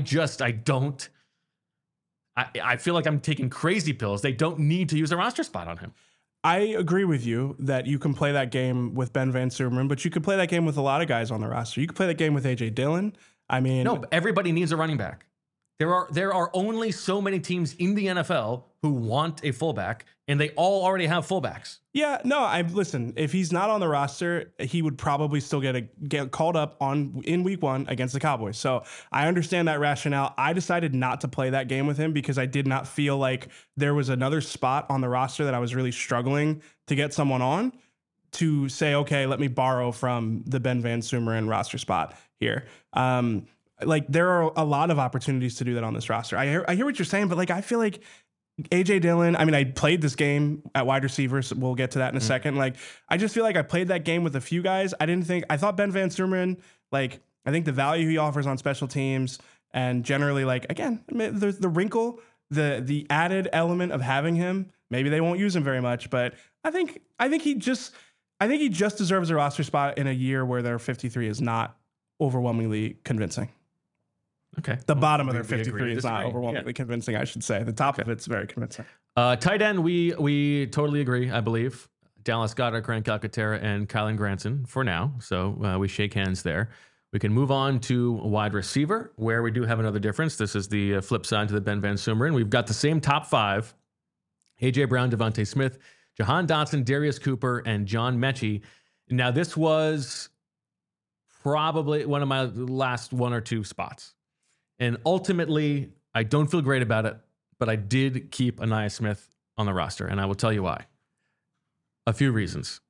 Speaker 1: I feel like I'm taking crazy pills. They don't need to use a roster spot on him.
Speaker 2: I agree with you that you can play that game with Ben Van Sumeren, but you could play that game with a lot of guys on the roster. You could play that game with A.J. Dillon. I mean,
Speaker 1: no, everybody needs a running back. There are only so many teams in the NFL who want a fullback, and they all already have fullbacks.
Speaker 2: Yeah, no, listen, if he's not on the roster, he would probably still get called up in week 1 against the Cowboys. So I understand that rationale. I decided not to play that game with him because I did not feel like there was another spot on the roster that I was really struggling to get someone on to say, okay, let me borrow from the Ben Van Sumeren roster spot here. Like, there are a lot of opportunities to do that on this roster. I hear what you're saying, but like, I feel like A.J. Dillon, I mean, I played this game at wide receivers. We'll get to that in a second. Like, I just feel like I played that game with a few guys. I thought Ben Van Sumeren, like, I think the value he offers on special teams and generally, like, again, there's the wrinkle, the added element of having him. Maybe they won't use him very much, but I think he just deserves a roster spot in a year where their 53 is not overwhelmingly convincing.
Speaker 1: Okay.
Speaker 2: The bottom of their 53 is not overwhelmingly convincing, I should say. The top of it's very convincing.
Speaker 1: Tight end, we totally agree, I believe. Dallas Goedert, Grant Calcaterra, and Kylen Granson for now. So we shake hands there. We can move on to wide receiver, where we do have another difference. This is the flip side to the Ben Van Sumeren. We've got the same top 5. A.J. Brown, Devontae Smith, Jahan Dotson, Darius Cooper, and John Mechie. Now, this was probably one of my last 1 or 2 spots. And ultimately, I don't feel great about it, but I did keep Ainias Smith on the roster, and I will tell you why. A few reasons.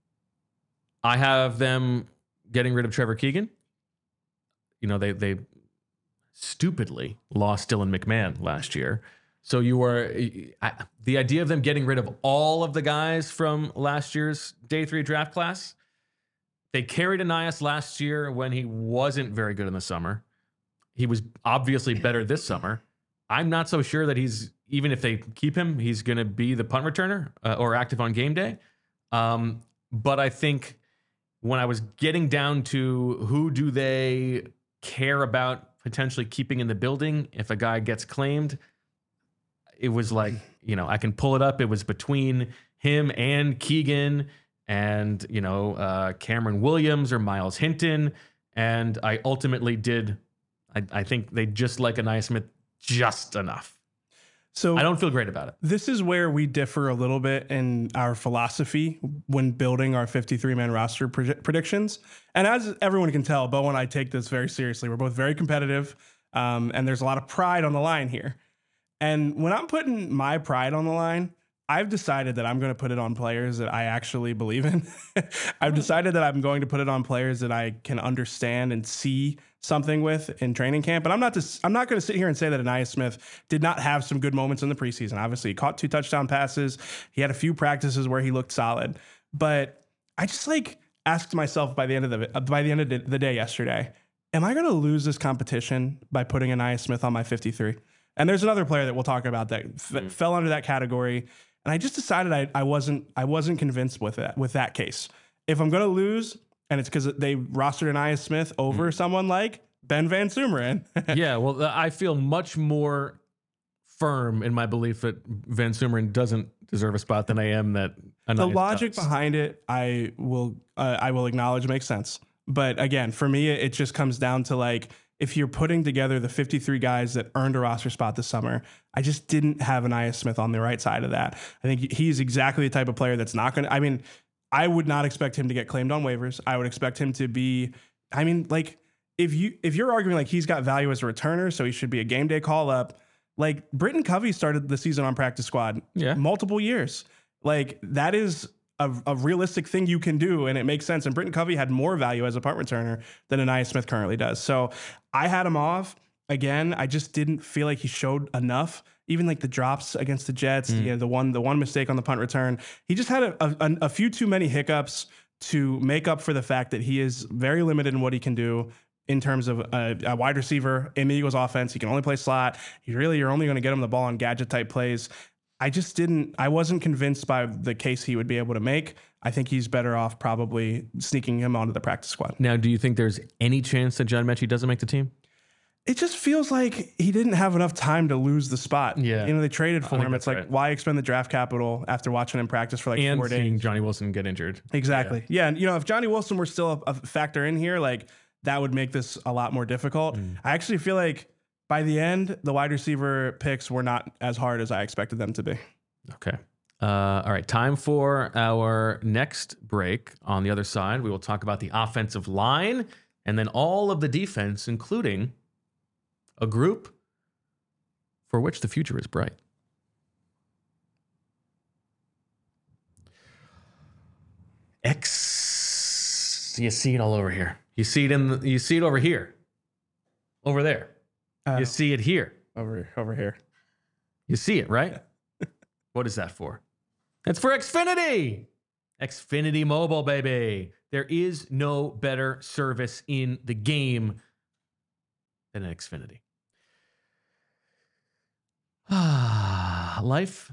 Speaker 1: I have them getting rid of Trevor Keegan. They stupidly lost Dylan McMahon last year. So the idea of them getting rid of all of the guys from last year's day 3 draft class. They carried Ainias last year when he wasn't very good in the summer. He was obviously better this summer. I'm not so sure that even if they keep him, he's going to be the punt returner or active on game day. But I think when I was getting down to who do they care about potentially keeping in the building if a guy gets claimed, it was like, I can pull it up. It was between him and Keegan and, Cameron Williams or Miles Hinton. And I ultimately did. I think they just like Ainias Smith just enough.
Speaker 2: So
Speaker 1: I don't feel great about it.
Speaker 2: This is where we differ a little bit in our philosophy when building our 53-man roster predictions. And as everyone can tell, Bo and I take this very seriously. We're both very competitive, and there's a lot of pride on the line here. And when I'm putting my pride on the line, I've decided that I'm going to put it on players that I actually believe in. I've decided that I'm going to put it on players that I can understand and see something with in training camp. But I'm not going to sit here and say that Ainias Smith did not have some good moments in the preseason. Obviously, he caught 2 touchdown passes. He had a few practices where he looked solid. But I just asked myself by the end of the day yesterday, am I going to lose this competition by putting Ainias Smith on my 53? And there's another player that we'll talk about that fell under that category. And I just decided I wasn't convinced with that case. If I'm going to lose, and it's because they rostered Ainias Smith over someone like Ben Van Sumeren.
Speaker 1: Yeah, well, I feel much more firm in my belief that Van Sumeren doesn't deserve a spot than I am that Ainias
Speaker 2: the logic
Speaker 1: does.
Speaker 2: behind it, I will acknowledge makes sense. But again, for me, it just comes down to if you're putting together the 53 guys that earned a roster spot this summer, I just didn't have Ainias Smith on the right side of that. I think he's exactly the type of player that's not going to, I would not expect him to get claimed on waivers. I would expect him to be, if you're arguing he's got value as a returner, so he should be a game day call up, Britton Covey started the season on practice squad multiple years. That is a realistic thing you can do, and it makes sense. And Britton Covey had more value as a punt returner than Ainias Smith currently does. So I had him off. Again, I just didn't feel like he showed enough. Even the drops against the Jets, the one mistake on the punt return, he just had a few too many hiccups to make up for the fact that he is very limited in what he can do in terms of a wide receiver in the Eagles offense. He can only play slot. You're only going to get him the ball on gadget type plays. I wasn't convinced by the case he would be able to make. I think he's better off probably sneaking him onto the practice squad.
Speaker 1: Now, do you think there's any chance that John Mechie doesn't make the team?
Speaker 2: It just feels like he didn't have enough time to lose the spot.
Speaker 1: Yeah.
Speaker 2: They traded for him. It's why expend the draft capital after watching him practice for 4 days?
Speaker 1: And seeing Johnny Wilson get injured.
Speaker 2: Exactly. Yeah. And, if Johnny Wilson were still a factor in here, that would make this a lot more difficult. I actually feel like by the end, the wide receiver picks were not as hard as I expected them to be.
Speaker 1: Okay. All right. Time for our next break. On the other side, we will talk about the offensive line and then all of the defense, including a group for which the future is bright. You see it all over here. You see it over here. Over there. You see it here.
Speaker 2: Over here.
Speaker 1: You see it, right? What is that for? That's for Xfinity. Xfinity Mobile, baby. There is no better service in the game than Xfinity. Life,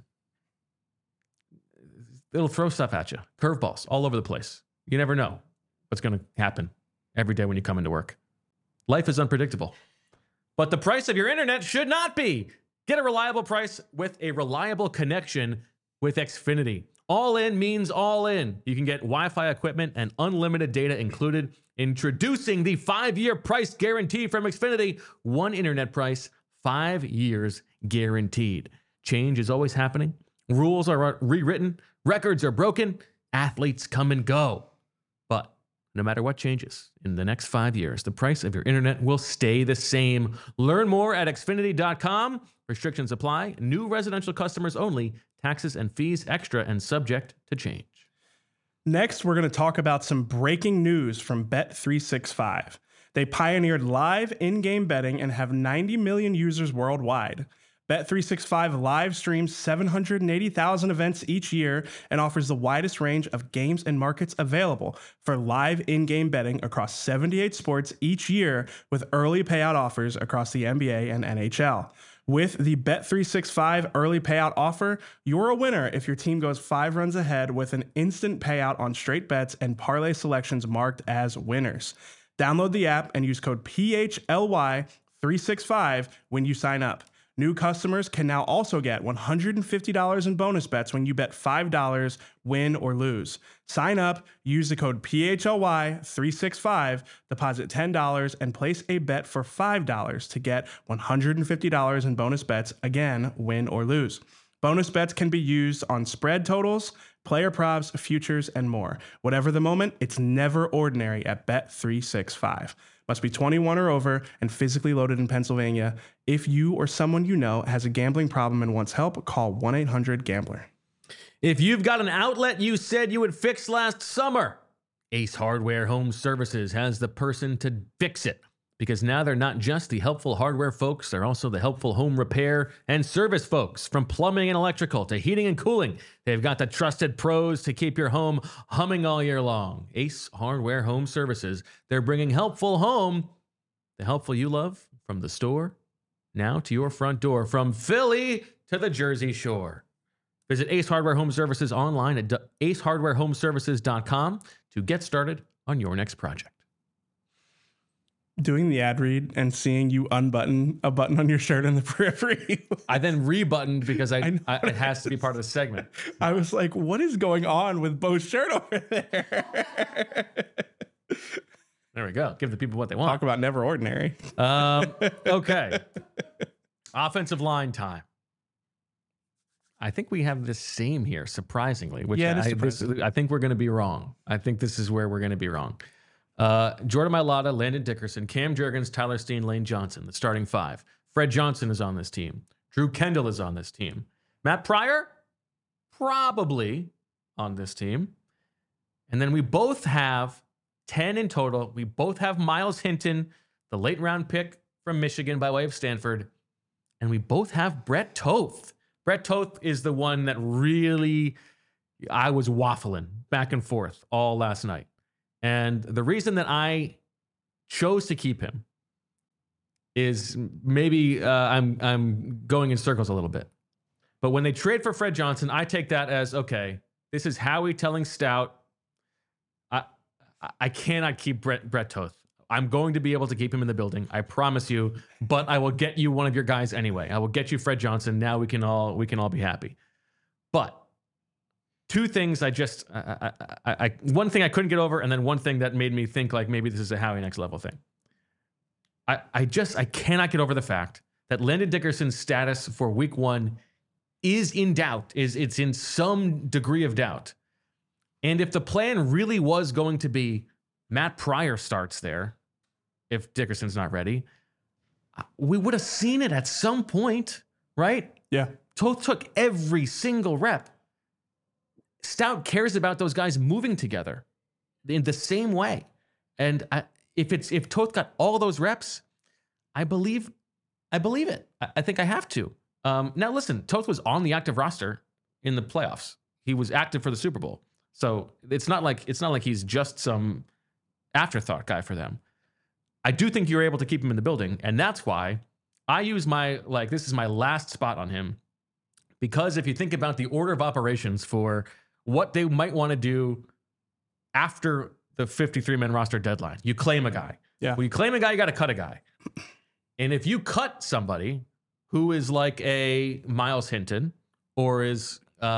Speaker 1: it'll throw stuff at you. Curveballs all over the place. You never know what's going to happen every day when you come into work. Life is unpredictable. But the price of your internet should not be. Get a reliable price with a reliable connection with Xfinity. All in means all in. You can get Wi-Fi equipment and unlimited data included. Introducing the 5-year price guarantee from Xfinity. One internet price, 5 years guaranteed. Change is always happening. Rules are rewritten. Records are broken. Athletes come and go. But no matter what changes in the next 5 years, the price of your internet will stay the same. Learn more at Xfinity.com. Restrictions apply. New residential customers only. Taxes and fees extra and subject to change.
Speaker 2: Next, we're going to talk about some breaking news from Bet365. They pioneered live in-game betting and have 90 million users worldwide. Bet365 live streams 780,000 events each year and offers the widest range of games and markets available for live in-game betting across 78 sports each year with early payout offers across the NBA and NHL. With the Bet365 early payout offer, you're a winner if your team goes 5 runs ahead with an instant payout on straight bets and parlay selections marked as winners. Download the app and use code PHLY365 when you sign up. New customers can now also get $150 in bonus bets when you bet $5, win or lose. Sign up, use the code PHLY365, deposit $10, and place a bet for $5 to get $150 in bonus bets, again, win or lose. Bonus bets can be used on spread totals, player props, futures, and more. Whatever the moment, it's never ordinary at Bet365. Must be 21 or over and physically loaded in Pennsylvania. If you or someone you know has a gambling problem and wants help, call 1-800-GAMBLER.
Speaker 1: If you've got an outlet you said you would fix last summer, Ace Hardware Home Services has the person to fix it. Because now they're not just the helpful hardware folks, they're also the helpful home repair and service folks. From plumbing and electrical to heating and cooling, they've got the trusted pros to keep your home humming all year long. Ace Hardware Home Services, they're bringing helpful home, the helpful you love, from the store now to your front door, from Philly to the Jersey Shore. Visit Ace Hardware Home Services online at acehardwarehomeservices.com to get started on your next project.
Speaker 2: Doing the ad read and seeing you unbutton a button on your shirt in the periphery.
Speaker 1: I then rebuttoned because it has to be part of the segment.
Speaker 2: I was like, what is going on with Bo's shirt over there?
Speaker 1: There we go. Give the people what they want.
Speaker 2: Talk about never ordinary.
Speaker 1: Okay. Offensive line time. I think we have the same here, surprisingly. Which I think we're going to be wrong. I think this is where we're going to be wrong. Jordan Mailata, Landon Dickerson, Cam Jurgens, Tyler Steen, Lane Johnson, the starting five. Fred Johnson is on this team. Drew Kendall is on this team. Matt Pryor, probably on this team. And then we both have 10 in total. We both have Miles Hinton, the late round pick from Michigan by way of Stanford. And we both have Brett Toth. Brett Toth is the one that really, I was waffling back and forth all last night. And the reason that I chose to keep him is maybe I'm going in circles a little bit. But when they trade for Fred Johnson, I take that as, okay, this is Howie telling Stout, I cannot keep Brett Toth. I'm going to be able to keep him in the building, I promise you, but I will get you one of your guys anyway. I will get you Fred Johnson. Now we can all be happy. But two things one thing I couldn't get over, and then one thing that made me think like maybe this is a Howie next level thing. I cannot get over the fact that Landon Dickerson's status for week one is in doubt, it's in some degree of doubt. And if the plan really was going to be Matt Pryor starts there, if Dickerson's not ready, we would have seen it at some point, right?
Speaker 2: Yeah.
Speaker 1: Toth took every single rep. Stout cares about those guys moving together in the same way. And if Toth got all those reps, I believe it. I think I have to. Now listen, Toth was on the active roster in the playoffs. He was active for the Super Bowl. So it's not like he's just some afterthought guy for them. I do think you're able to keep him in the building, and that's why I use this is my last spot on him, because if you think about the order of operations for what they might want to do after the 53-man roster deadline, you claim a guy.
Speaker 2: Yeah.
Speaker 1: When you claim a guy, you got to cut a guy. And if you cut somebody who is like a Miles Hinton or is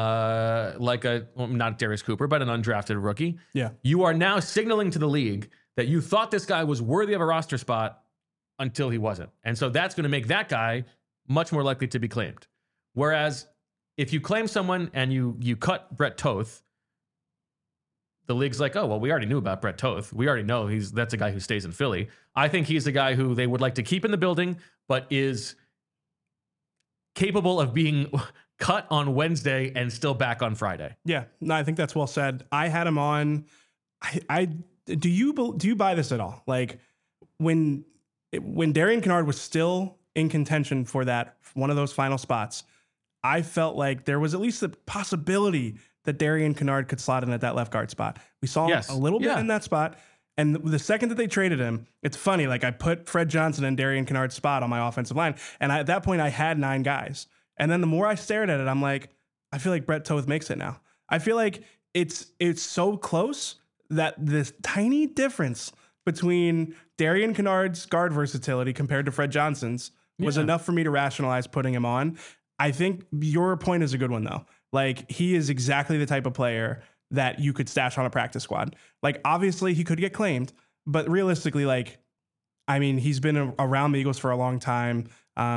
Speaker 1: not Darius Cooper, but an undrafted rookie, you are now signaling to the league that you thought this guy was worthy of a roster spot until he wasn't. And so that's going to make that guy much more likely to be claimed. Whereas if you claim someone and you cut Brett Toth, the league's like, oh, well, we already knew about Brett Toth. We already know that's a guy who stays in Philly. I think he's a guy who they would like to keep in the building, but is capable of being cut on Wednesday and still back on Friday.
Speaker 2: Yeah, no, I think that's well said. I had him on. Do you buy this at all? Like when Darian Kinnard was still in contention for that one of those final spots, I felt like there was at least the possibility that Darian Kinnard could slot in at that left guard spot. We saw him a little bit in that spot. And the second that they traded him, it's funny. Like I put Fred Johnson and Darian Kinnard's spot on my offensive line. And at that point I had 9 guys. And then the more I stared at it, I'm like, I feel like Brett Toth makes it now. I feel like it's so close that this tiny difference between Darian Kinnard's guard versatility compared to Fred Johnson's was enough for me to rationalize putting him on. I think your point is a good one, though. Like, he is exactly the type of player that you could stash on a practice squad. Like, obviously, he could get claimed, but realistically, like, I mean, he's been around the Eagles for a long time.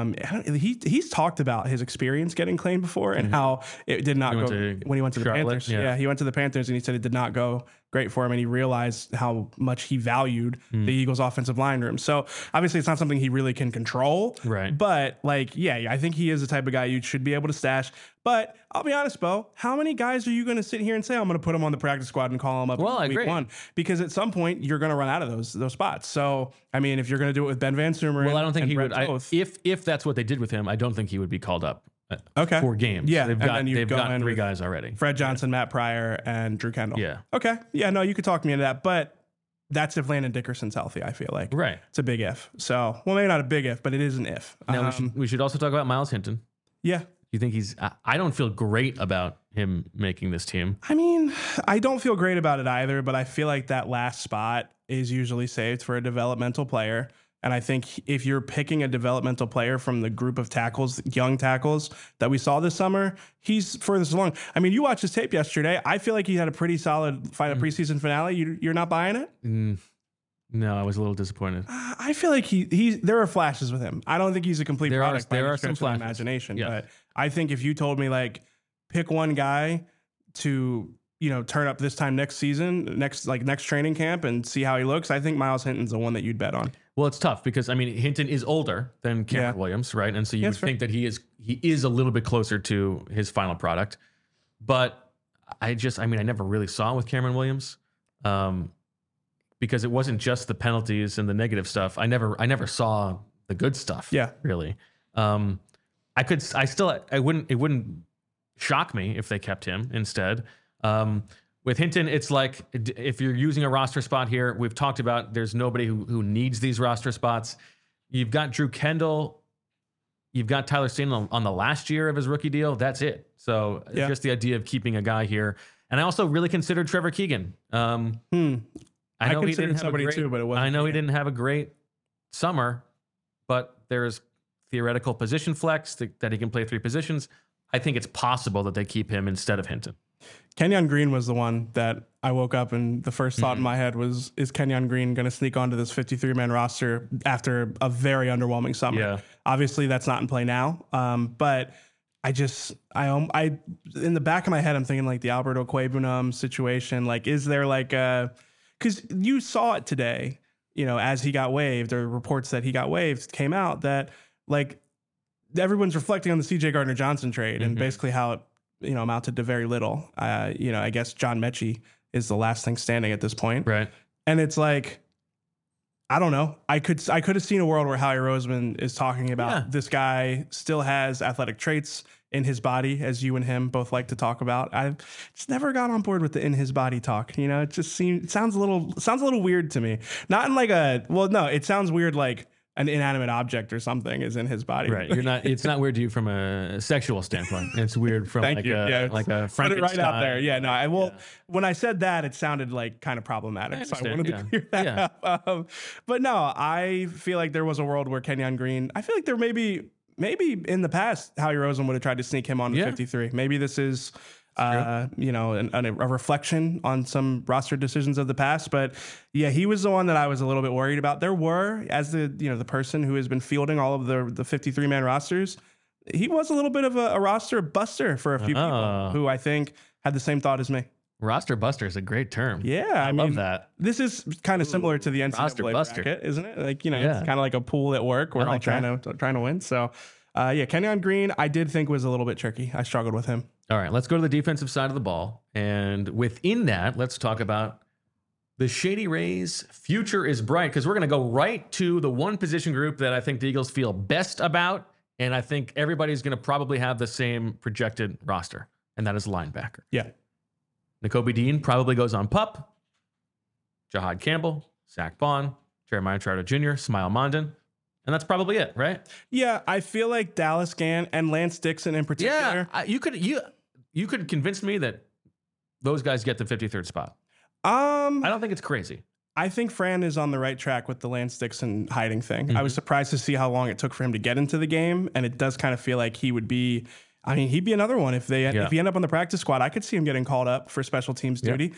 Speaker 2: He's talked about his experience getting claimed before and how it did not go when he went to the Panthers. Yeah, he went to the Panthers and he said it did not go great for him, and he realized how much he valued the Eagles' offensive line room. So obviously, it's not something he really can control.
Speaker 1: Right.
Speaker 2: But like, yeah, I think he is the type of guy you should be able to stash. But I'll be honest, Bo, how many guys are you going to sit here and say, I'm going to put him on the practice squad and call him up in week 1? Because at some point, you're going to run out of those spots. So, I mean, if you're going to do it with Ben Van Sumeren,
Speaker 1: well, I don't think he would. If that's what they did with him, I don't think he would be called up. For games.
Speaker 2: Yeah.
Speaker 1: They've got 3 guys already.
Speaker 2: Fred Johnson, Matt Pryor, and Drew Kendall.
Speaker 1: Yeah.
Speaker 2: Okay. Yeah, no, you could talk me into that. But that's if Landon Dickerson's healthy, I feel like.
Speaker 1: Right.
Speaker 2: It's a big if. So, well, maybe not a big if, but it is an if.
Speaker 1: Now, we should also talk about Myles Hinton.
Speaker 2: Yeah.
Speaker 1: You think I don't feel great about him making this team.
Speaker 2: I mean, I don't feel great about it either, but I feel like that last spot is usually saved for a developmental player. And I think if you're picking a developmental player from the group of tackles, young tackles that we saw this summer, he's furthest along. I mean, you watched his tape yesterday. I feel like he had a pretty solid preseason finale. You're not buying it?
Speaker 1: No, I was a little disappointed.
Speaker 2: I feel like there are flashes with him. I don't think he's a complete product.
Speaker 1: There are some flashes.
Speaker 2: Imagination. Yeah. But I think if you told me, like, pick one guy to, turn up this time next season, next training camp and see how he looks, I think Myles Hinton's the one that you'd bet on.
Speaker 1: Well, it's tough because, I mean, Hinton is older than Cameron Williams, right? And so you would think that he is a little bit closer to his final product. But I never really saw it with Cameron Williams because it wasn't just the penalties and the negative stuff. I never saw the good stuff.
Speaker 2: Yeah.
Speaker 1: Really. It wouldn't shock me if they kept him instead. With Hinton, it's like if you're using a roster spot here, we've talked about there's nobody who needs these roster spots. You've got Drew Kendall. You've got Tyler Steen on the last year of his rookie deal. That's it. So just the idea of keeping a guy here. And I also really considered Trevor Keegan. I know he didn't have he didn't have a great summer, but there's theoretical position flex that he can play 3 positions. I think it's possible that they keep him instead of Hinton.
Speaker 2: Kenyon Green was the one that I woke up and the first thought in my head was, is Kenyon Green going to sneak onto this 53-man roster after a very underwhelming summer? Yeah. Obviously, that's not in play now. But I in the back of my head, I'm thinking like the Albert Okwebunam situation. Like, is there like because you saw it today, as he got waived, or reports that he got waived came out that like everyone's reflecting on the CJ Gardner-Johnson trade and basically how it amounted to very little. I guess John Mechie is the last thing standing at this point.
Speaker 1: Right.
Speaker 2: And it's like, I don't know. I could have seen a world where Howie Roseman is talking about this guy still has athletic traits in his body, as you and him both like to talk about. I've just never got on board with the in his body talk. It just sounds a little weird to me. Not in like it sounds weird like an inanimate object or something is in his body.
Speaker 1: Right. It's not weird to you from a sexual standpoint. It's weird from like a Frankenstein.
Speaker 2: Put it right out there. Yeah, no, when I said that, it sounded like kind of problematic. So I wanted to clear that up. But no, I feel like there was a world where Kenyon Green, I feel like there maybe in the past, Howie Roseman would have tried to sneak him on to 53. Maybe this is a reflection on some roster decisions of the past. But yeah, he was the one that I was a little bit worried about. There were, as the person who has been fielding all of the 53-man rosters, he was a little bit of a roster buster for a few people who I think had the same thought as me.
Speaker 1: Roster buster is a great term.
Speaker 2: Yeah,
Speaker 1: I love that.
Speaker 2: This is kind of similar to the NCAA bracket, isn't it? Like, it's kind of like a pool at work. We're all trying to win. So, Kenyon Green, I did think was a little bit tricky. I struggled with him.
Speaker 1: All right, let's go to the defensive side of the ball. And within that, let's talk about the Shady Rays' future is bright, because we're going to go right to the one position group that I think the Eagles feel best about. And I think everybody's going to probably have the same projected roster, and that is linebacker.
Speaker 2: Yeah.
Speaker 1: Nakobe Dean probably goes on PUP. Jahad Campbell, Zach Bond, Jeremiah Trotter Jr., Smile Mondon. And that's probably it, right?
Speaker 2: Yeah, I feel like Dallas Gann and Lance Dixon in particular.
Speaker 1: Yeah, you could convince me that those guys get the 53rd spot.
Speaker 2: I
Speaker 1: don't think it's crazy.
Speaker 2: I think Fran is on the right track with the Lance Dixon hiding thing. I was surprised to see how long it took for him to get into the game, and it does kind of feel like he would be. I mean, he'd be another one if he end up on the practice squad. I could see him getting called up for special teams duty.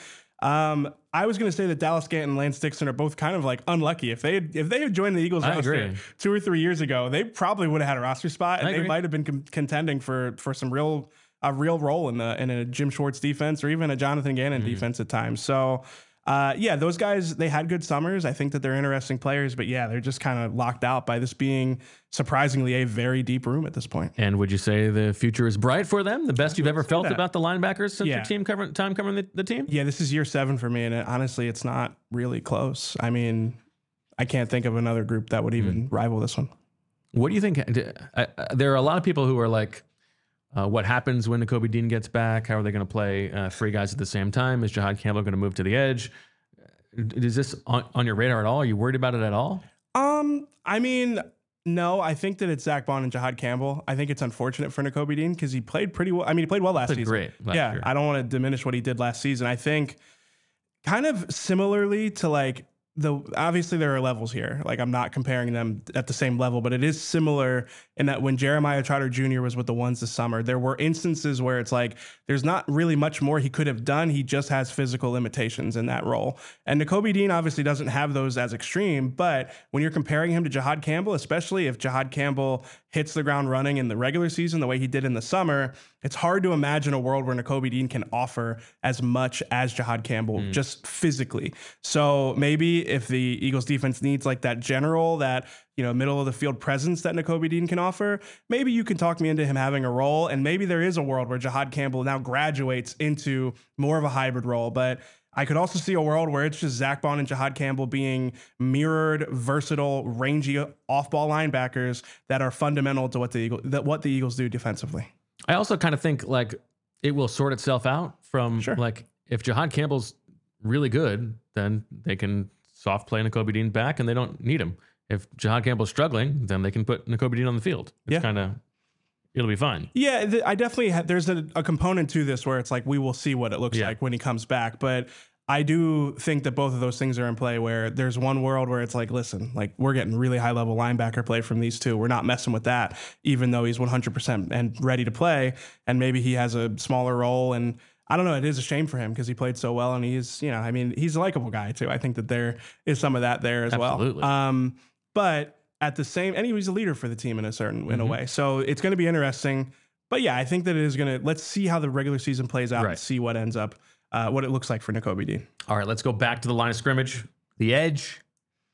Speaker 2: I was going to say that Dallas Gant and Lance Dixon are both kind of like unlucky. If they had joined the Eagles roster 2 or 3 years ago, they probably would have had a roster spot, and they might have been contending for some real role in a Jim Schwartz defense or even a Jonathan Gannon defense at times. So. Those guys, they had good summers. I think that they're interesting players, but they're just kind of locked out by this being surprisingly a very deep room at this point.
Speaker 1: And would you say the future is bright for them? The best you've ever felt about the linebackers since your team covering the team?
Speaker 2: Yeah, this is year 7 for me, and honestly, it's not really close. I mean, I can't think of another group that would even rival this one.
Speaker 1: What do you think? There are a lot of people who are like, what happens when Nakobe Dean gets back? How are they going to play 3 guys at the same time? Is Jihad Campbell going to move to the edge? Is this on your radar at all? Are you worried about it at all?
Speaker 2: I mean, no. I think that it's Zach Bond and Jihad Campbell. I think it's unfortunate for Nakobe Dean because he played pretty well. I mean, he played well last season.
Speaker 1: Great. Year.
Speaker 2: I don't want to diminish what he did last season. I think kind of similarly to like obviously there are levels here. Like I'm not comparing them at the same level, but it is similar in that when Jeremiah Trotter Jr. was with the Ones this summer, there were instances where it's like there's not really much more he could have done. He just has physical limitations in that role. And Nakobe Dean obviously doesn't have those as extreme, but when you're comparing him to Jihad Campbell, especially if Jihad Campbell hits the ground running in the regular season the way he did in the summer, it's hard to imagine a world where Nakobe Dean can offer as much as Jihad Campbell just physically. So maybe if the Eagles defense needs like that general, that middle of the field presence that Nakobe Dean can offer, maybe you can talk me into him having a role, and maybe there is a world where Jihad Campbell now graduates into more of a hybrid role. But I could also see a world where it's just Zach Bond and Jihad Campbell being mirrored, versatile, rangy off-ball linebackers that are fundamental to what the Eagles do defensively.
Speaker 1: I also kind of think like it will sort itself out from like if Jihad Campbell's really good, then they can soft play Nakobe Dean back and they don't need him. If Jihad Campbell's struggling, then they can put Nakobe Dean on the field. It's kind of, it'll be fine.
Speaker 2: Yeah, I definitely there's a component to this where it's like we will see what it looks like when he comes back. But I do think that both of those things are in play where there's one world where it's like, listen, like we're getting really high level linebacker play from these two. We're not messing with that, even though he's 100% and ready to play. And maybe he has a smaller role. And I don't know, it is a shame for him because he played so well. And he's, he's a likable guy too. I think that there is some of that there as well. But at the same, and he was a leader for the team in a way. So it's going to be interesting. But I think that it is going to, let's see how the regular season plays out and see what ends up, what it looks like for Nakobe Dean.
Speaker 1: All right, let's go back to the line of scrimmage, the edge.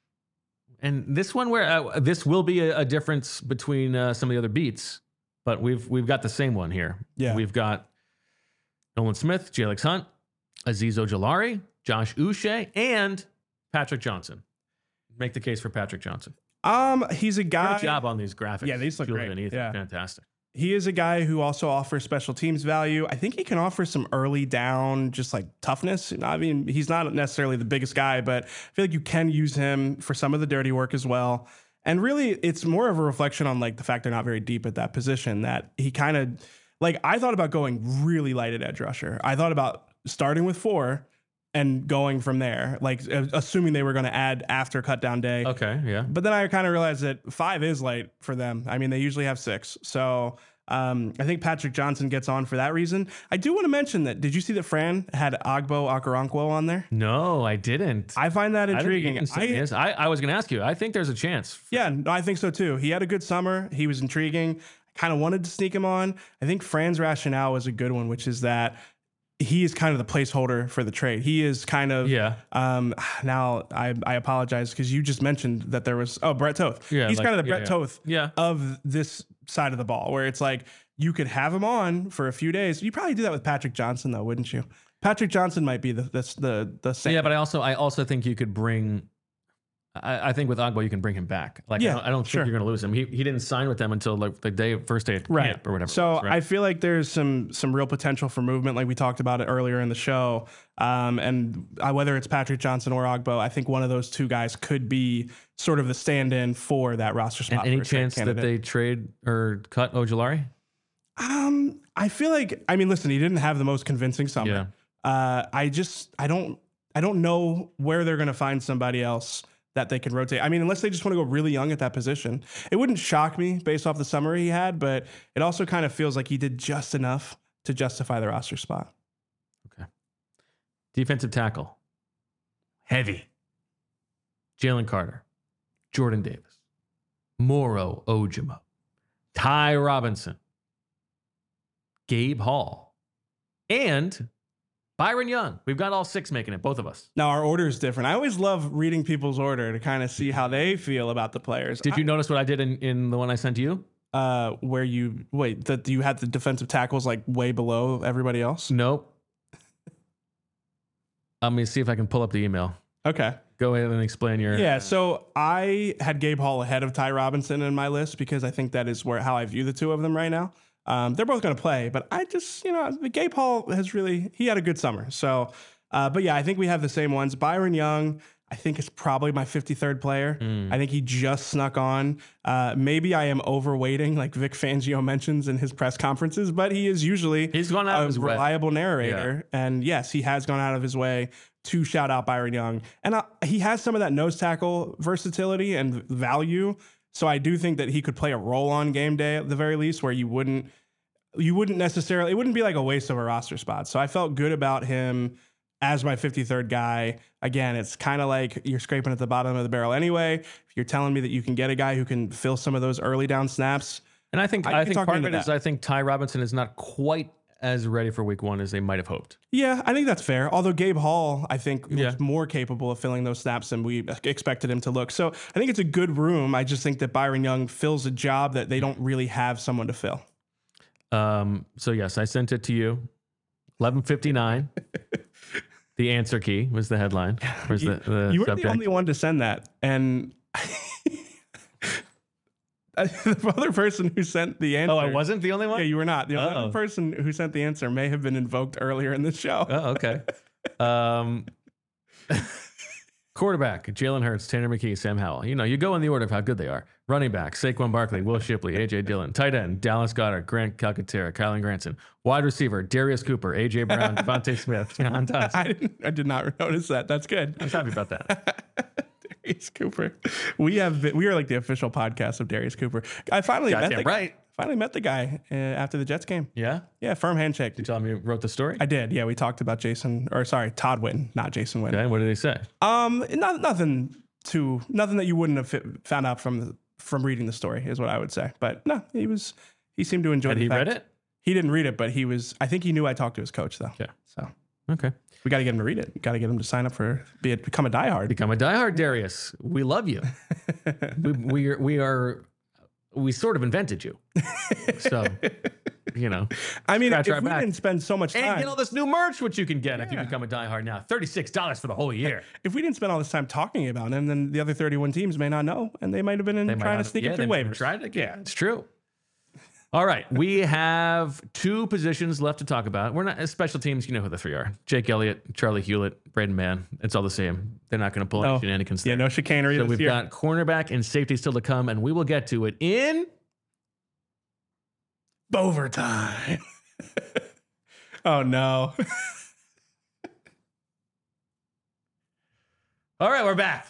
Speaker 1: And this one where this will be a difference between some of the other beats, but we've got the same one here.
Speaker 2: Yeah.
Speaker 1: We've got Nolan Smith, Jalix Hunt, Azeez Ojulari, Josh Uche, and Patrick Johnson. Make the case for Patrick Johnson.
Speaker 2: He's a guy.
Speaker 1: Good job on these graphics.
Speaker 2: Yeah, these look great.
Speaker 1: Yeah. Fantastic.
Speaker 2: He is a guy who also offers special teams value. I think he can offer some early down, just like toughness. I mean, he's not necessarily the biggest guy, but I feel like you can use him for some of the dirty work as well. And really, it's more of a reflection on like the fact they're not very deep at that position, that he kind of like, I thought about going really light at edge rusher. I thought about starting with 4 and going from there, like assuming they were going to add after cut down day.
Speaker 1: Okay, yeah.
Speaker 2: But then I kind of realized that 5 is light for them. I mean, they usually have 6. So I think Patrick Johnson gets on for that reason. I do want to mention that, did you see that Fran had Agbo Okoronkwo on there?
Speaker 1: No, I didn't.
Speaker 2: I find that intriguing.
Speaker 1: I was going to ask you. I think there's a chance.
Speaker 2: Yeah, I think so too. He had a good summer. He was intriguing. I kind of wanted to sneak him on. I think Fran's rationale was a good one, which is that he is kind of the placeholder for the trade. He is kind of, now I apologize because you just mentioned that there was, Brett Toth. Yeah, he's like, kind of the Brett Toth of this side of the ball, where it's like you could have him on for a few days. You probably do that with Patrick Johnson though, wouldn't you? Patrick Johnson might be the same.
Speaker 1: Yeah, but I also think you could bring, I think with Agbo you can bring him back. Like I don't think you're going to lose him. He didn't sign with them until like the first day of camp or whatever.
Speaker 2: So I feel like there's some real potential for movement, like we talked about it earlier in the show. And whether it's Patrick Johnson or Agbo, I think one of those two guys could be sort of the stand-in for that roster spot.
Speaker 1: And any chance that they trade or cut Ojulari?
Speaker 2: I feel like, I mean, listen, he didn't have the most convincing summer. I I don't know where they're going to find somebody else that they can rotate. I mean, unless they just want to go really young at that position. It wouldn't shock me based off the summer he had, but it also kind of feels like he did just enough to justify the roster spot.
Speaker 1: Okay. Defensive tackle. Heavy. Jalen Carter. Jordan Davis. Moro Ojimo. Ty Robinson. Gabe Hall. And Byron Young. We've got all 6 making it, both of us.
Speaker 2: Now, our order is different. I always love reading people's order to kind of see how they feel about the players.
Speaker 1: Did you notice what I did in the one I sent to you?
Speaker 2: Where you had the defensive tackles like way below everybody else?
Speaker 1: Nope. Let me see if I can pull up the email.
Speaker 2: Okay.
Speaker 1: Go ahead and explain your...
Speaker 2: Yeah, so I had Gabe Hall ahead of Ty Robinson in my list because I think that is how I view the two of them right now. They're both going to play, but I just, Gabe Hall he had a good summer. So, but yeah, I think we have the same ones. Byron Young, I think is probably my 53rd player. I think he just snuck on. Maybe I am overweighting, like Vic Fangio mentions in his press conferences, but he is usually
Speaker 1: He's gone out of his
Speaker 2: reliable narrator. Yeah. And yes, he has gone out of his way to shout out Byron Young. And he has some of that nose tackle versatility and value. So I do think that he could play a role on game day at the very least, where you wouldn't necessarily, it wouldn't be like a waste of a roster spot. So I felt good about him as my 53rd guy. Again, it's kind of like you're scraping at the bottom of the barrel anyway. If you're telling me that you can get a guy who can fill some of those early down snaps.
Speaker 1: And I think part of it is I think Ty Robinson is not quite as ready for week 1 as they might have hoped.
Speaker 2: Yeah, I think that's fair. Although Gabe Hall, I think, was more capable of filling those snaps than we expected him to look. So I think it's a good room. I just think that Byron Young fills a job that they don't really have someone to fill.
Speaker 1: So yes, I sent it to you. 11:59. The answer key was the headline. Was
Speaker 2: you were
Speaker 1: subject.
Speaker 2: The only one to send that, and the other person who sent the answer.
Speaker 1: Oh, I wasn't the only one?
Speaker 2: Yeah, you were not. The other person who sent the answer may have been invoked earlier in the show.
Speaker 1: Oh, okay. Quarterback, Jalen Hurts, Tanner McKee, Sam Howell. You go in the order of how good they are. Running back, Saquon Barkley, Will Shipley, A.J. Dillon. Tight end, Dallas Goedert, Grant Calcaterra, Kylan Granson. Wide receiver, Darius Cooper, A.J. Brown, Devontae Smith, John Dodson.
Speaker 2: I did not notice that. That's good.
Speaker 1: I'm happy about that.
Speaker 2: Darius Cooper. We are like the official podcast of Darius Cooper. I finally met the guy after the Jets game.
Speaker 1: Yeah?
Speaker 2: Yeah, firm handshake.
Speaker 1: Did you tell me you wrote the story?
Speaker 2: I did. Yeah, we talked about Todd Witten, not Jason Witten.
Speaker 1: Okay, what did he say?
Speaker 2: Nothing that you wouldn't have found out from reading the story is what I would say. But no, he seemed to enjoy it.
Speaker 1: Had he read it?
Speaker 2: He didn't read it, but I think he knew I talked to his coach though.
Speaker 1: Yeah.
Speaker 2: So.
Speaker 1: Okay.
Speaker 2: We got to get him to read it. We got to get him to sign up become a diehard.
Speaker 1: Become a diehard, Darius. We love you. we sort of invented you. So,
Speaker 2: I mean, if we didn't spend so much time.
Speaker 1: And get all this new merch, which you can get if you become a diehard now. $36 for the whole year.
Speaker 2: If we didn't spend all this time talking about him, then the other 31 teams may not know, and they might have been trying to sneak it through waivers.
Speaker 1: Yeah, it's true. All right, we have 2 positions left to talk about. We're not special teams. You know who the 3 are: Jake Elliott, Charlie Hewlett, Braden Mann. It's all the same. They're not going to pull any shenanigans there.
Speaker 2: Yeah, no chicanery.
Speaker 1: So we've got cornerback and safety still to come, and we will get to it in
Speaker 2: overtime. Oh no.
Speaker 1: All right, we're back.